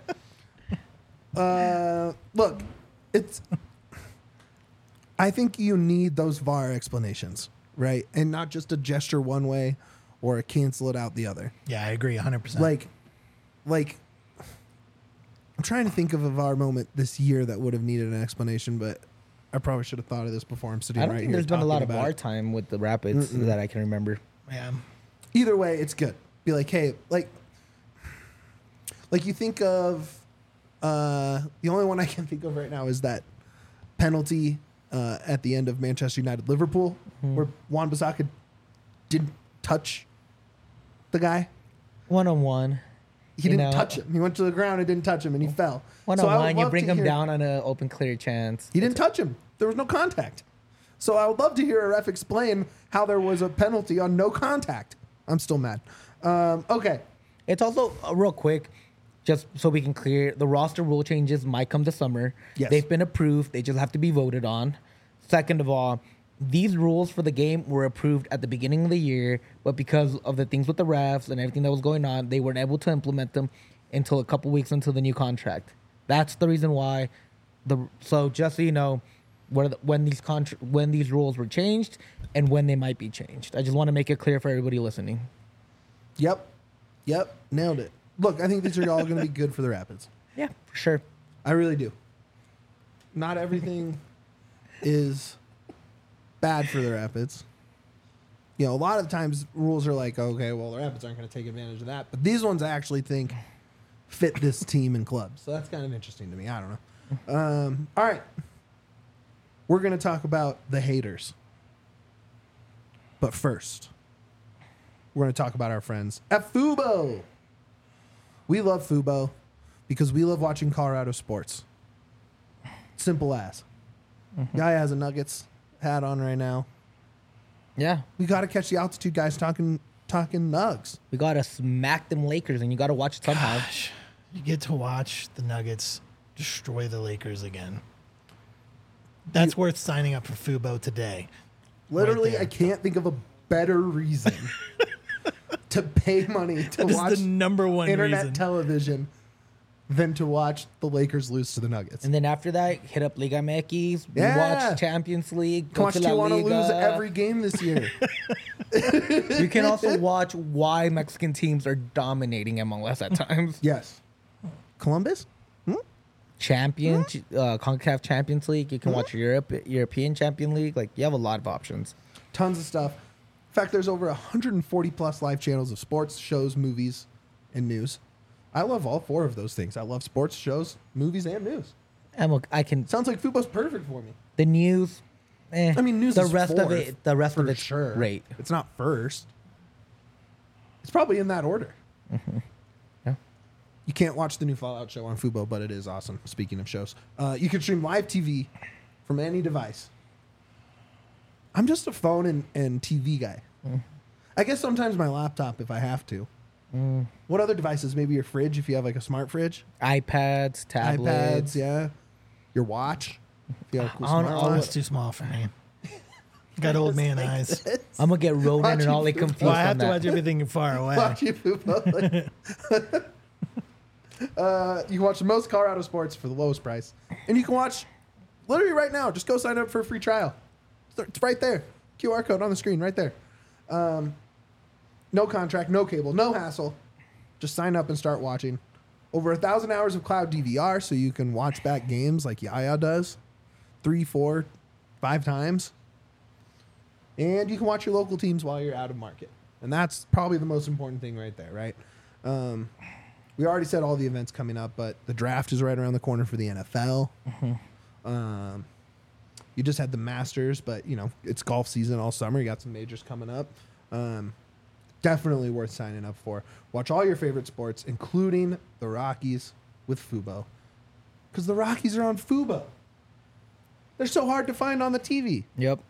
Look, it's. I think you need those VAR explanations, right? And not just a gesture one way or a cancel it out the other. Yeah, I agree 100%. Like, I'm trying to think of a VAR moment this year that would have needed an explanation, but I probably should have thought of this before I'm sitting I don't right think here. there's been a lot talking of about VAR it. time with the Rapids that I can remember. yeah. Either way, it's good be like, hey, like you think of the only one I can think of right now is that penalty at the end of Manchester United Liverpool, where Wan-Bissaka didn't touch the guy. 1-on-1. He didn't touch him. He went to the ground and didn't touch him, and he fell. 1-on-1, you bring him down on an open, clear chance. He didn't touch him. There was no contact. So I would love to hear a ref explain how there was a penalty on no contact. I'm still mad. Okay. It's also, real quick, just so we can clear, the roster rule changes might come this summer. Yes. They've been approved. They just have to be voted on. Second of all, these rules for the game were approved at the beginning of the year, but because of the things with the refs and everything that was going on, they weren't able to implement them until a couple weeks into the new contract. That's the reason why. So just so you know, when these rules were changed and when they might be changed. I just want to make it clear for everybody listening. Yep. Nailed it. Look, I think these are all going to be good for the Rapids. Yeah, for sure. I really do. Not everything is bad for the Rapids. You know, a lot of times rules are like, okay, well, the Rapids aren't going to take advantage of that. But these ones I actually think fit this team and club. So that's kind of interesting to me. I don't know. All right. We're going to talk about the haters. But first, we're going to talk about our friends at Fubo. We love Fubo because we love watching Colorado sports. Simple as. Guy has a Nuggets hat on right now. Yeah. We got to catch the altitude guys talking Nugs. We got to smack them Lakers, and you got to watch it somehow. Gosh, you get to watch the Nuggets destroy the Lakers again. That's worth signing up for Fubo today. Literally, Right I can't think of a better reason to pay money to That is watch the number one internet reason. television than to watch the Lakers lose to the Nuggets. And then after that, hit up Liga MX. We Yeah. watch Champions League. Come watch to La Tijuana Liga. lose every game this year. You can also watch why Mexican teams are dominating MLS at times. Yes. Columbus? CONCACAF Champions League. You can watch European Champion League. Like, you have a lot of options. Tons of stuff. In fact, there's over 140 plus live channels of sports, shows, movies, and news. I love all four of those things. I love sports, shows, movies, and news. And look, Sounds like Fubo's perfect for me. the news. I mean, news the is rest of fourth, it. The rest for of it's sure. great. It's not first. It's probably in that order. Yeah. You can't watch the new Fallout show on Fubo, but it is awesome. Speaking of shows, you can stream live TV from any device. I'm just a phone and TV guy. I guess sometimes my laptop if I have to. What other devices? Maybe your fridge if you have like a smart fridge. iPads, tablets. iPads, yeah. Your watch. If you have a cool Oh, smart that's watch. too small for me. Got old man eyes. I'm gonna get Ronan and Watching Ollie Fubo. confused Well, I on have to that. watch everything far away. Watching Fubo. You can watch the most Colorado sports for the lowest price. And you can watch literally right now. Just go sign up for a free trial. It's right there. QR code on the screen right there. No contract, no cable, no hassle. Just sign up and start watching. Over 1,000 hours of cloud DVR so you can watch back games like Yaya does 3, 4, 5 times. And you can watch your local teams while you're out of market. And that's probably the most important thing right there, right? We already said all the events coming up, but the draft is right around the corner for the NFL. You just had the Masters, but, you know, it's golf season all summer. You got some majors coming up. Definitely worth signing up for. Watch all your favorite sports, including the Rockies with Fubo. Because the Rockies are on Fubo. They're so hard to find on the TV. Yep.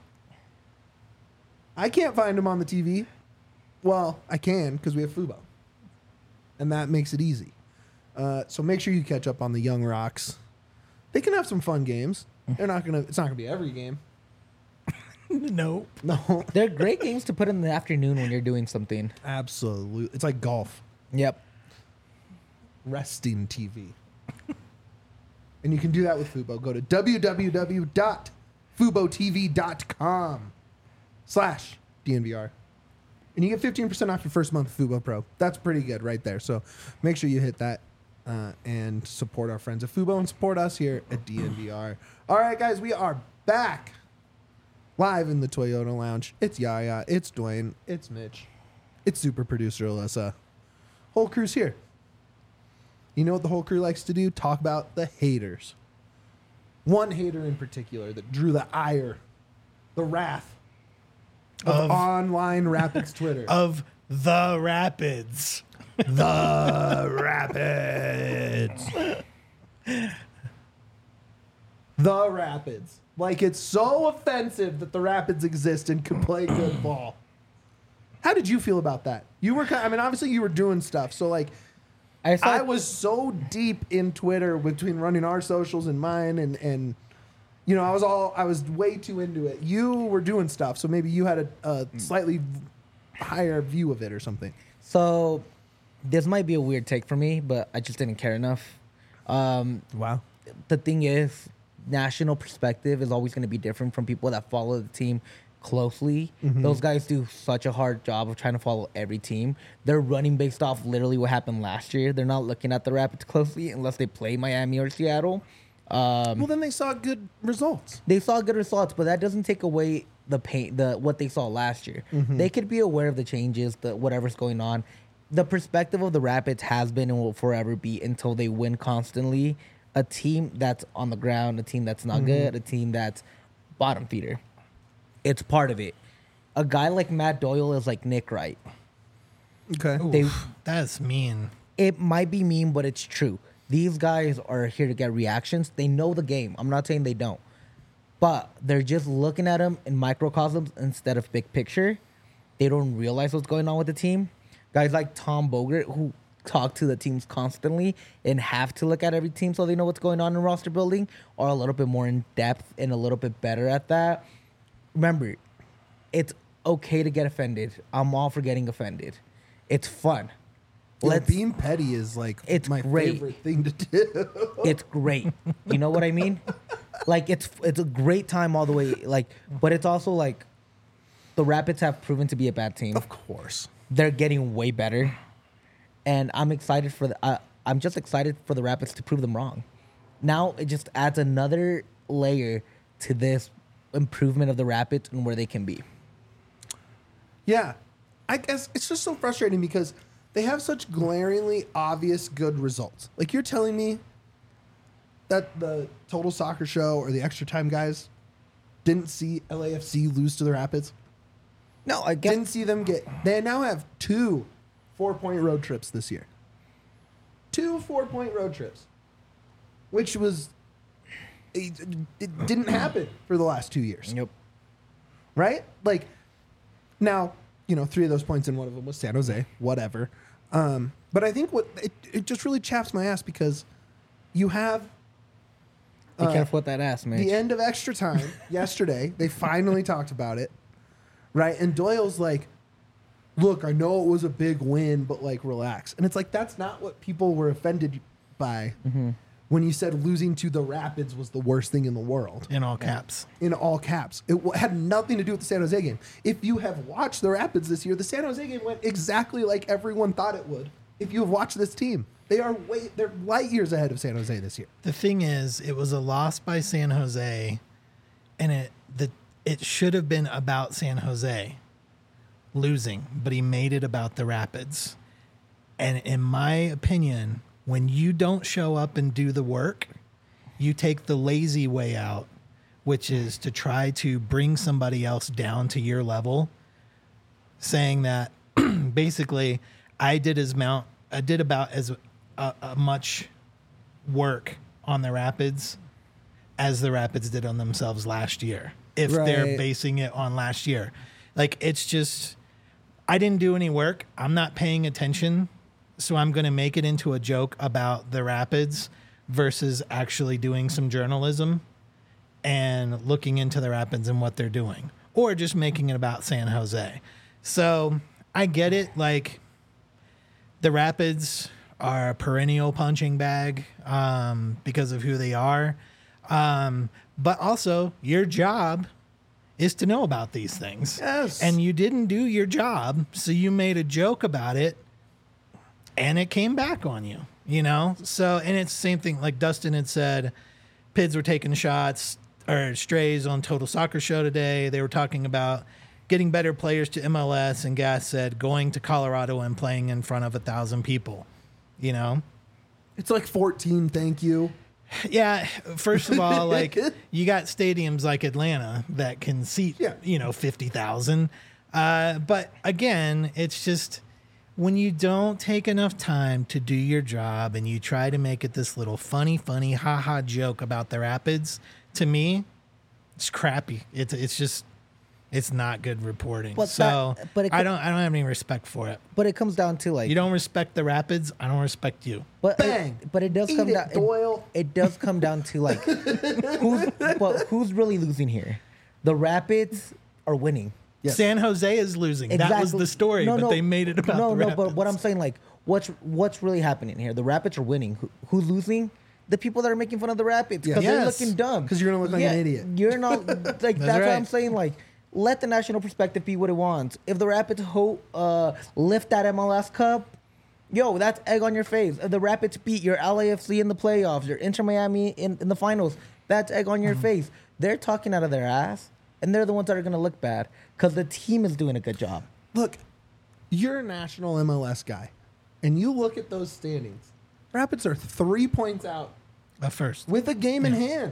I can't find them on the TV. Well, I can because we have Fubo. And that makes it easy. So make sure you catch up on the Young Rocks. They can have some fun games. It's not gonna be every game. No. No. They're great games to put in the afternoon when you're doing something. Absolutely. It's like golf. Yep. Resting TV. And you can do that with Fubo. Go to www.fubotv.com/DNVR. And you get 15% off your first month of Fubo Pro. That's pretty good right there. So make sure you hit that and support our friends at Fubo and support us here at DNVR. All right, guys, we are back live in the Toyota Lounge. It's Yaya. It's Dwayne. It's Mitch. It's super producer Alyssa. Whole crew's here. You know what the whole crew likes to do? Talk about the haters. One hater in particular that drew the ire, the wrath of online Rapids Twitter. Of the Rapids. The Rapids. The Rapids. Like, it's so offensive that the Rapids exist and can play good ball. How did you feel about that? You were, I mean, obviously you were doing stuff. So, like, I was so deep in Twitter between running our socials and mine, and you know, I was way too into it. You were doing stuff, so maybe you had a slightly higher view of it or something. So this might be a weird take for me, but I just didn't care enough. Wow. The thing is, national perspective is always going to be different from people that follow the team closely. Those guys do such a hard job of trying to follow every team. They're running based off literally what happened last year. They're not looking at the Rapids closely unless they play Miami or Seattle. Well, then they saw good results. They saw good results, but that doesn't take away the pain, what they saw last year. They could be aware of the changes, whatever's going on. The perspective of the Rapids has been and will forever be, until they win constantly, a team that's on the ground, a team that's not good, a team that's bottom feeder. It's part of it. A guy like Matt Doyle is like Nick Wright. Okay. That's mean. It might be mean, but it's true. These guys are here to get reactions. They know the game. I'm not saying they don't. But they're just looking at them in microcosms instead of big picture. They don't realize what's going on with the team. Guys like Tom Bogert, who talk to the teams constantly and have to look at every team so they know what's going on in roster building, are a little bit more in depth and a little bit better at that. Remember, it's okay to get offended. I'm all for getting offended. It's fun. Being petty is like It's my great. favorite thing to do. It's great. You know what I mean? Like, it's a great time all the way. Like, but it's also like the Rapids have proven to be a bad team. Of course. They're getting way better, and I'm excited for I'm just excited for the Rapids to prove them wrong. Now it just adds another layer to this improvement of the Rapids and where they can be. Yeah. I guess it's just so frustrating because they have such glaringly obvious good results. Like, you're telling me that the Total Soccer Show or the Extra Time guys didn't see LAFC lose to the Rapids? No, I guess Didn't see them get... They now have 2 4-point road trips this year. 2 4-point road trips. Which was... It didn't happen for the last 2 years. Yep. Right? Like, now, you know, 3 of those points in one of them was San Jose, whatever. But I think it just really chaps my ass because you have Be careful with that ass, man. the end of extra time yesterday. They finally talked about it, right? And Doyle's like, look, I know it was a big win, but like, relax. And it's like, that's not what people were offended by when you said losing to the Rapids was the worst thing in the world. In all caps. In all caps. It had nothing to do with the San Jose game. If you have watched the Rapids this year, the San Jose game went exactly like everyone thought it would. If you have watched this team, they're light years ahead of San Jose this year. The thing is, it was a loss by San Jose, and it should have been about San Jose losing, but he made it about the Rapids. And in my opinion, when you don't show up and do the work, you take the lazy way out, which is to try to bring somebody else down to your level, saying that basically I did about as much work on the Rapids as the Rapids did on themselves last year, if they're Right. basing it on last year. Like, it's just, I didn't do any work. I'm not paying attention. So I'm going to make it into a joke about the Rapids versus actually doing some journalism and looking into the Rapids and what they're doing, or just making it about San Jose. So I get it. Like, the Rapids are a perennial punching bag because of who they are. But also, your job is to know about these things. Yes. And you didn't do your job, so you made a joke about it, and it came back on you, you know? So, and it's the same thing, like Dustin had said, Pids were taking shots or strays on Total Soccer Show today. They were talking about getting better players to MLS, and Gas said going to Colorado and playing in front of 1,000 people. You know, It's like 14, thank you. yeah. First of all, like you got stadiums like Atlanta that can seat, 50,000. But again, it's just when you don't take enough time to do your job and you try to make it this little funny, haha joke about the Rapids. To me, it's crappy. It's not good reporting. But so but I don't have any respect for it. But it comes down to like You don't respect the Rapids, I don't respect you. But Bang. But it does Eat come it, down. Doyle. It does come down to like who's really losing here? The Rapids are winning. Yes. San Jose is losing. That was the story, but they made it about the Rapids. But what I'm saying, like, what's really happening here? The Rapids are winning. Who's losing? The people that are making fun of the Rapids because they're Yes. looking dumb. 'Cause you're gonna look like an idiot. You're not like that's right. what I'm saying. Like, let the national perspective be what it wants. If the Rapids lift that MLS Cup, yo, that's egg on your face. If the Rapids beat your LAFC in the playoffs, your Inter Miami in the finals, that's egg on your face. They're talking out of their ass, and they're the ones that are going to look bad because the team is doing a good job. Look, you're a national MLS guy, and you look at those standings. Rapids are 3 points out At first. with a game in hand.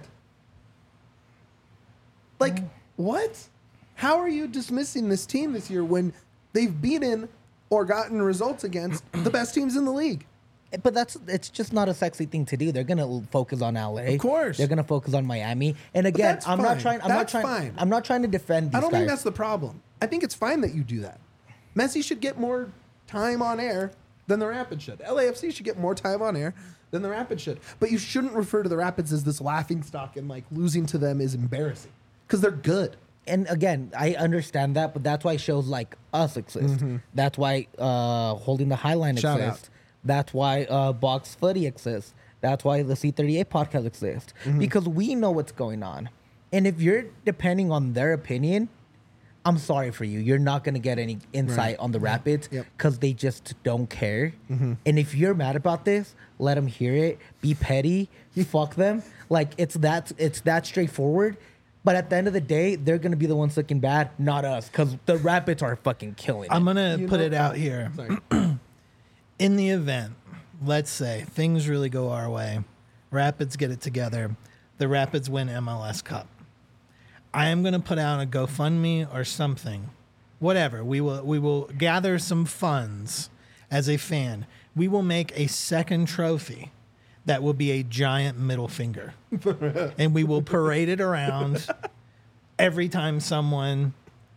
Like, what? How are you dismissing this team this year when they've beaten or gotten results against the best teams in the league? But it's just not a sexy thing to do. They're gonna focus on LA. Of course. They're gonna focus on Miami. And again, that's I'm not fine. trying. That's fine. I'm not trying to defend these I don't guys. think that's the problem. I think it's fine that you do that. Messi should get more time on air than the Rapids should. LAFC should get more time on air than the Rapids should. But you shouldn't refer to the Rapids as this laughing stock and like losing to them is embarrassing because they're good. And again, I understand that, but that's why shows like us exist. That's why Holding the Highline Shout exists. out. That's why Box Footy exists. That's why the C38 podcast exists. Because we know what's going on. And if you're depending on their opinion, I'm sorry for you. You're not going to get any insight on the Rapids Yep. because they just don't care. And if you're mad about this, let them hear it. Be petty. Fuck them. Like it's that straightforward. But at the end of the day, they're going to be the ones looking bad, not us, because the Rapids are fucking killing it. I'm going to You put know- it out here. Sorry. In the event, let's say things really go our way, Rapids get it together, the Rapids win MLS Cup. I am going to put out a GoFundMe or something, whatever. We will gather some funds as a fan. We will make a second trophy that will be a giant middle finger, and we will parade it around every time someone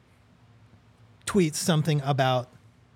tweets something about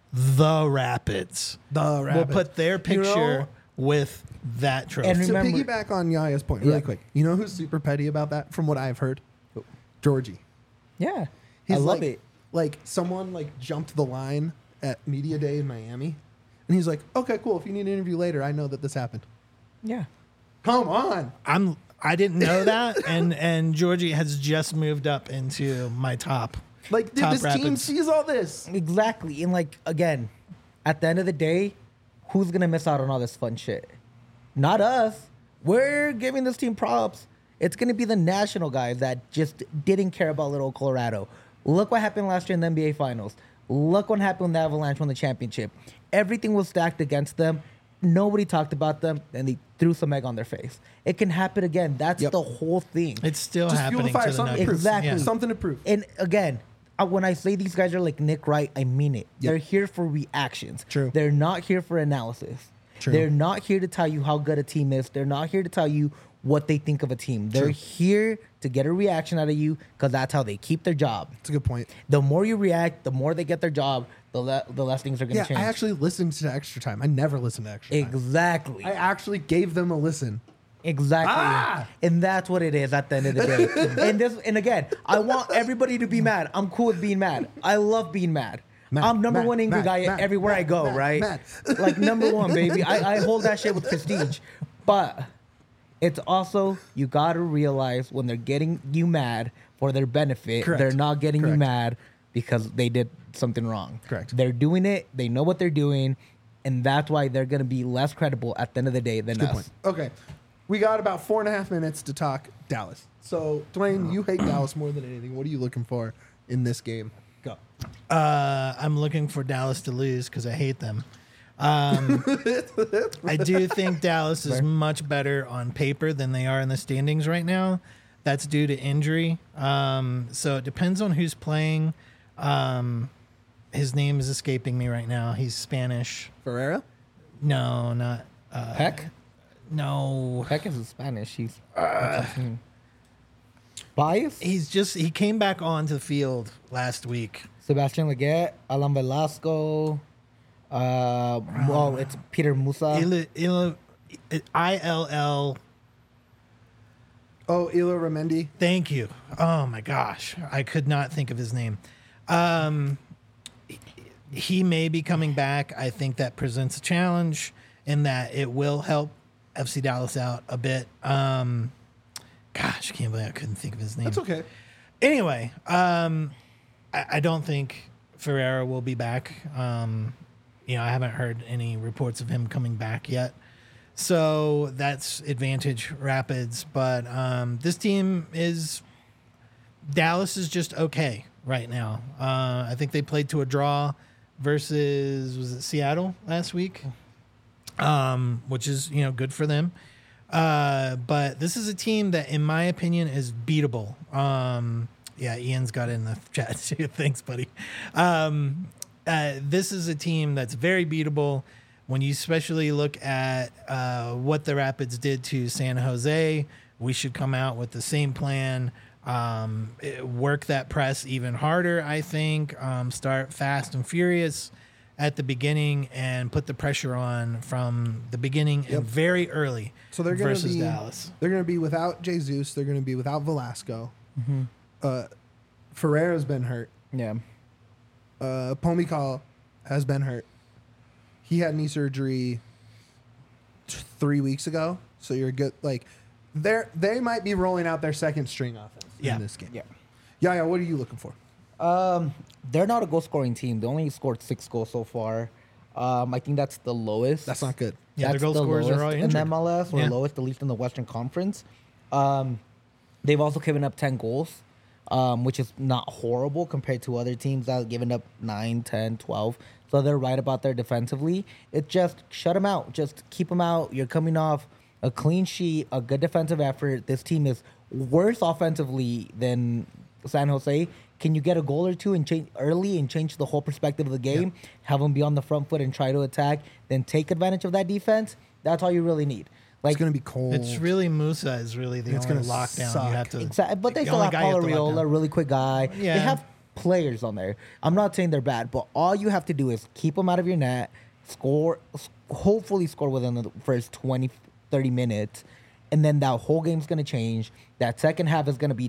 the Rapids. The Rapids. We'll put their You picture know- with that trophy. And To remember- piggyback on Yaya's point really Yeah. quick, you know who's super petty about that from what I've heard? Georgie. Yeah. He's I love like, it. Like someone like jumped the line at Media Day in Miami, and he's like, "Okay, cool. If you need an interview later, I know that this happened." Yeah. Come on. I didn't know that, and Georgie has just moved up into my top. Like, dude, Top this team Rapids. sees all this. Exactly. And like, again, at the end of the day, who's going to miss out on all this fun shit? Not us. We're giving this team props. It's going to be the national guys that just didn't care about little Colorado. Look what happened last year in the NBA Finals. Look what happened when the Avalanche won the championship. Everything was stacked against them. Nobody talked about them, and they threw some egg on their face. It can happen again. That's Yep. the whole thing. It's still Just fuel the happening fire. to the Something to Nuggets. prove. Exactly. Yeah. Something to prove. And again, when I say these guys are like Nick Wright, I mean it. Yep. They're here for reactions. True. They're not here for analysis. True. They're not here to tell you how good a team is. They're not here to tell you what they think of a team. They're True. here to get a reaction out of you because that's how they keep their job. That's a good point. The more you react, the more they get their job, the less things are going to Yeah, change. I actually listened to Extra Time. I never listened to Extra Time. Exactly. I actually gave them a listen. Exactly. Ah! And that's what it is at the end of the day. and again, I want everybody to be mad. I'm cool with being mad. I love being mad. Mad, I'm number mad, one angry mad, guy mad, everywhere I mad, go, mad, right? mad. Like number one, baby. I hold that shit with prestige. But it's also you gotta realize when they're getting you mad for their benefit, Correct. they're not getting you Correct. mad because they did something wrong. Correct. They're doing it, they know what they're doing, and that's why they're gonna be less credible at the end of the day than Good us. point. Okay. We got about 4.5 minutes to talk Dallas. So, Dwayne, you hate Dallas more than anything. What are you looking for in this game? Go. I'm looking for Dallas to lose because I hate them. I do think Dallas is much better on paper than they are in the standings right now. That's due to injury. So it depends on who's playing. His name is escaping me right now. He's Spanish. Ferreira? No, not Peck? No. Peck is Spanish. He's Bias? He came back onto the field last week. Sebastian Leggett, Alan Velasco. Well, it's Peter Musa. ILL. Oh, Ilo Ramendi. Thank you. Oh my gosh, I could not think of his name. He may be coming back. I think that presents a challenge in that it will help FC Dallas out a bit. Gosh, I can't believe I couldn't think of his name. That's okay. Anyway, I don't think Ferreira will be back. I haven't heard any reports of him coming back yet. So that's advantage Rapids. But this team Dallas is just okay right now. I think they played to a draw versus, was it Seattle last week? Which is, good for them. But this is a team that, in my opinion, is beatable. Yeah, Ian's got it in the chat too. Thanks, buddy. This is a team that's very beatable. When you especially look at what the Rapids did to San Jose, we should come out with the same plan. Work that press even harder, I think. Start fast and furious at the beginning and put the pressure on from the beginning and very early. So they're going to versus be Dallas. They're going to be without Jesus. They're going to be without Velasco. Ferreira's been hurt. Yeah. Pomikal has been hurt. He had knee surgery 3 weeks ago. So you're good. Like they might be rolling out their second string offense in this game. Yeah. Yeah. What are you looking for? They're not a goal scoring team. They only scored 6 goals so far. I think that's the lowest. That's not good. Yeah, That's their goal the scorers are lowest all in injured. MLS, or Yeah. lowest, at least in the Western Conference. They've also given up 10 goals, which is not horrible compared to other teams that have given up 9, 10, 12. So they're right about there defensively. It just shut them out. Just keep them out. You're coming off a clean sheet, a good defensive effort. This team is worse offensively than San Jose. Can you get a goal or two and change early and change the whole perspective of the game? Yeah. Have them be on the front foot and try to attack, then take advantage of that defense. That's all you really need. Like, It's going to be cold. It's really Musa is really the It's only gonna lockdown suck. you have to. exactly, but they the still only have guy you Paulo have to lock Riola, down. really quick guy. Yeah. They have players on there. I'm not saying they're bad, but all you have to do is keep them out of your net, hopefully score within the first 20, 30 minutes, and then that whole game's going to change. That second half is going to be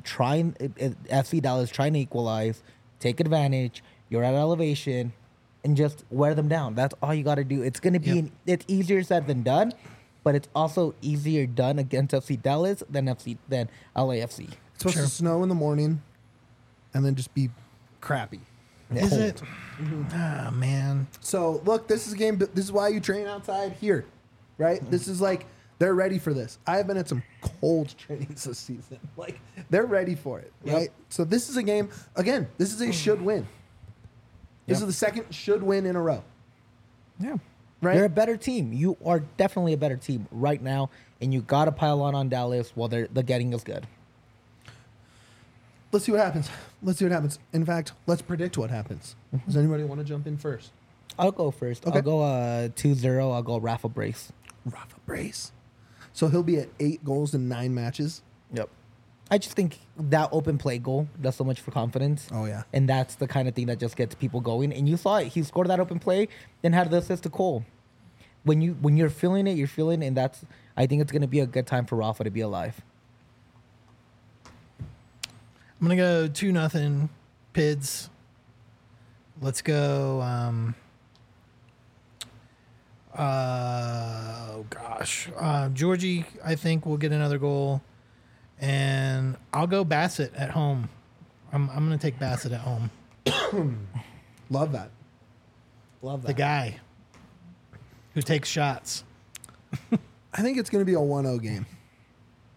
FC Dallas trying to equalize, take advantage. You're at elevation, and just wear them down. That's all you got to do. It's going to be it's easier said than done, but it's also easier done against FC Dallas than LAFC. It's supposed to snow in the morning and then just be crappy. Is it? Ah, man. So, look, this is a game. This is why you train outside here, right? This is like, they're ready for this. I've been at some cold trainings this season. Like, they're ready for it, right? So, this is a game, again, this is a should win. This is the second should win in a row. Yeah. Right? You're a better team. You are definitely a better team right now, and you got to pile on Dallas while the getting is good. Let's see what happens. In fact, let's predict what happens. Does anybody want to jump in first? I'll go first. Okay. I'll go 2-0. I'll go Rafa Brace. Rafa Brace. So he'll be at 8 goals in 9 matches. Yep. I just think that open play goal does so much for confidence. Oh, yeah. And that's the kind of thing that just gets people going. And you saw it. He scored that open play, then had the assist to Cole. When you're feeling it, you're feeling it, and I think it's going to be a good time for Rafa to be alive. I'm gonna go 2-0 Pids. Let's go. Oh gosh, Georgie, I think will get another goal, and I'll go Bassett at home. I'm gonna take Bassett at home. Love that. The guy who takes shots. I think it's going to be a 1-0 game.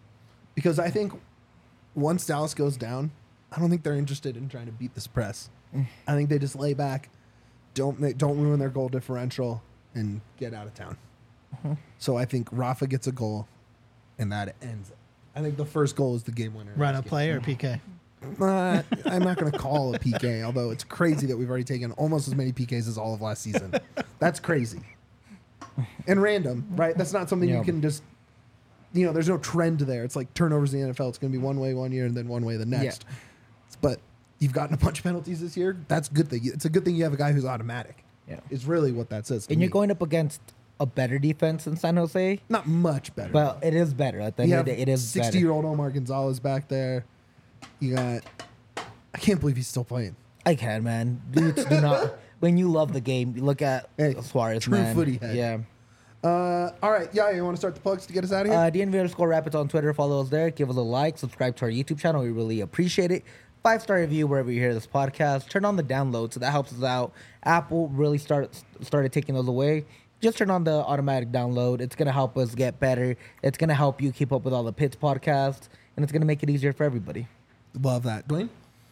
Because I think once Dallas goes down, I don't think they're interested in trying to beat this press. I think they just lay back, don't ruin their goal differential, and get out of town. So I think Rafa gets a goal, and that ends it. I think the first goal is the game winner. Run a play or PK? I'm not going to call a PK, although it's crazy that we've already taken almost as many PKs as all of last season. That's crazy. And random, right? That's not something you can just, there's no trend there. It's like turnovers in the NFL. It's going to be one way one year and then one way the next. Yeah. But you've gotten a bunch of penalties this year. That's a good thing. It's a good thing you have a guy who's automatic. Yeah. It's really what that says. And you're going up against a better defense in San Jose. Not much better. Well, it is better. At the end of the day, it is 60-year-old Omar Gonzalez back there. You got... I can't believe he's still playing. I can, man. Dudes do not... When you love the game, you look at Suarez, true man. footy head. Yeah. All right. Yeah, you want to start the plugs to get us out of here? DNV_Rapids on Twitter. Follow us there. Give us a like. Subscribe to our YouTube channel. We really appreciate it. 5-star review wherever you hear this podcast. Turn on the download, so that helps us out. Apple really started taking those away. Just turn on the automatic download. It's going to help us get better. It's going to help you keep up with all the Pits podcasts, and it's going to make it easier for everybody. Love that. Dwayne?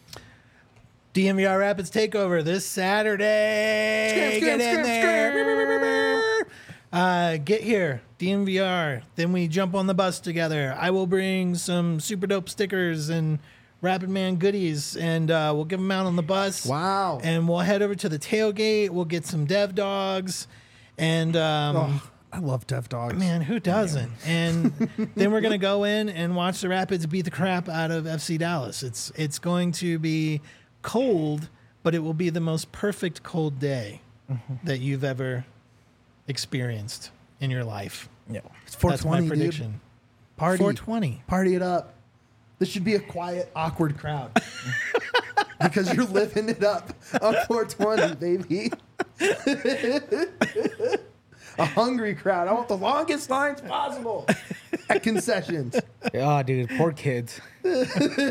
DNVR Rapids Takeover this Saturday. Get in there. Get here, DNVR. Then we jump on the bus together. I will bring some super dope stickers and Rapid Man goodies, and we'll give them out on the bus. Wow. And we'll head over to the tailgate. We'll get some dev dogs. And I love Dev Dogs. man, who doesn't? And then we're gonna go in and watch the Rapids beat the crap out of FC Dallas. It's going to be cold, but it will be the most perfect cold day that you've ever experienced in your life. Yeah. It's That's 420, my prediction. dude. Party. 420. Party it up. This should be a quiet, awkward crowd. Because you're living it up on 420, baby. A hungry crowd. I want the longest lines possible at concessions. Oh, dude, poor kids. Look,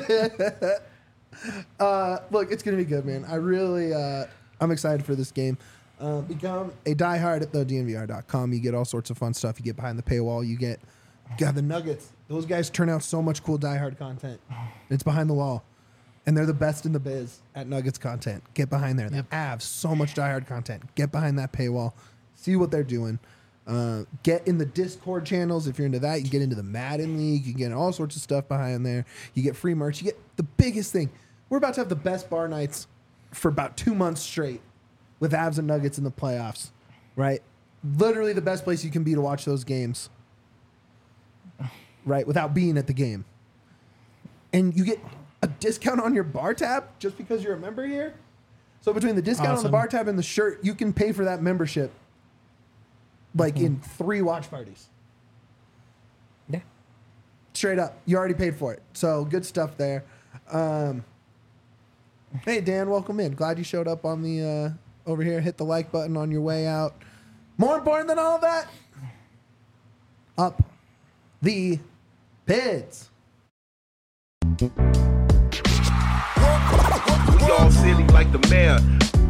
it's going to be good, man. I really, I'm excited for this game. Become a diehard at thednvr.com. You get all sorts of fun stuff. You get behind the paywall. You get the Nuggets. Those guys turn out so much cool diehard content. It's behind the wall. And they're the best in the biz at Nuggets content. Get behind there. Yep. They have so much diehard content. Get behind that paywall. See what they're doing. Get in the Discord channels if you're into that. You get into the Madden League. You get all sorts of stuff behind there. You get free merch. You get the biggest thing. We're about to have the best bar nights for about 2 months straight with Avs and Nuggets in the playoffs, right? Literally the best place you can be to watch those games, right? Without being at the game. And you get a discount on your bar tab just because you're a member here. So between the discount on the bar tab and the shirt, you can pay for that membership like in 3 watch parties. Yeah. Straight up. You already paid for it. So good stuff there. Hey, Dan, welcome in. Glad you showed up on the over here. Hit the like button on your way out. More important than all of that, up the Pids. We all silly like the mayor.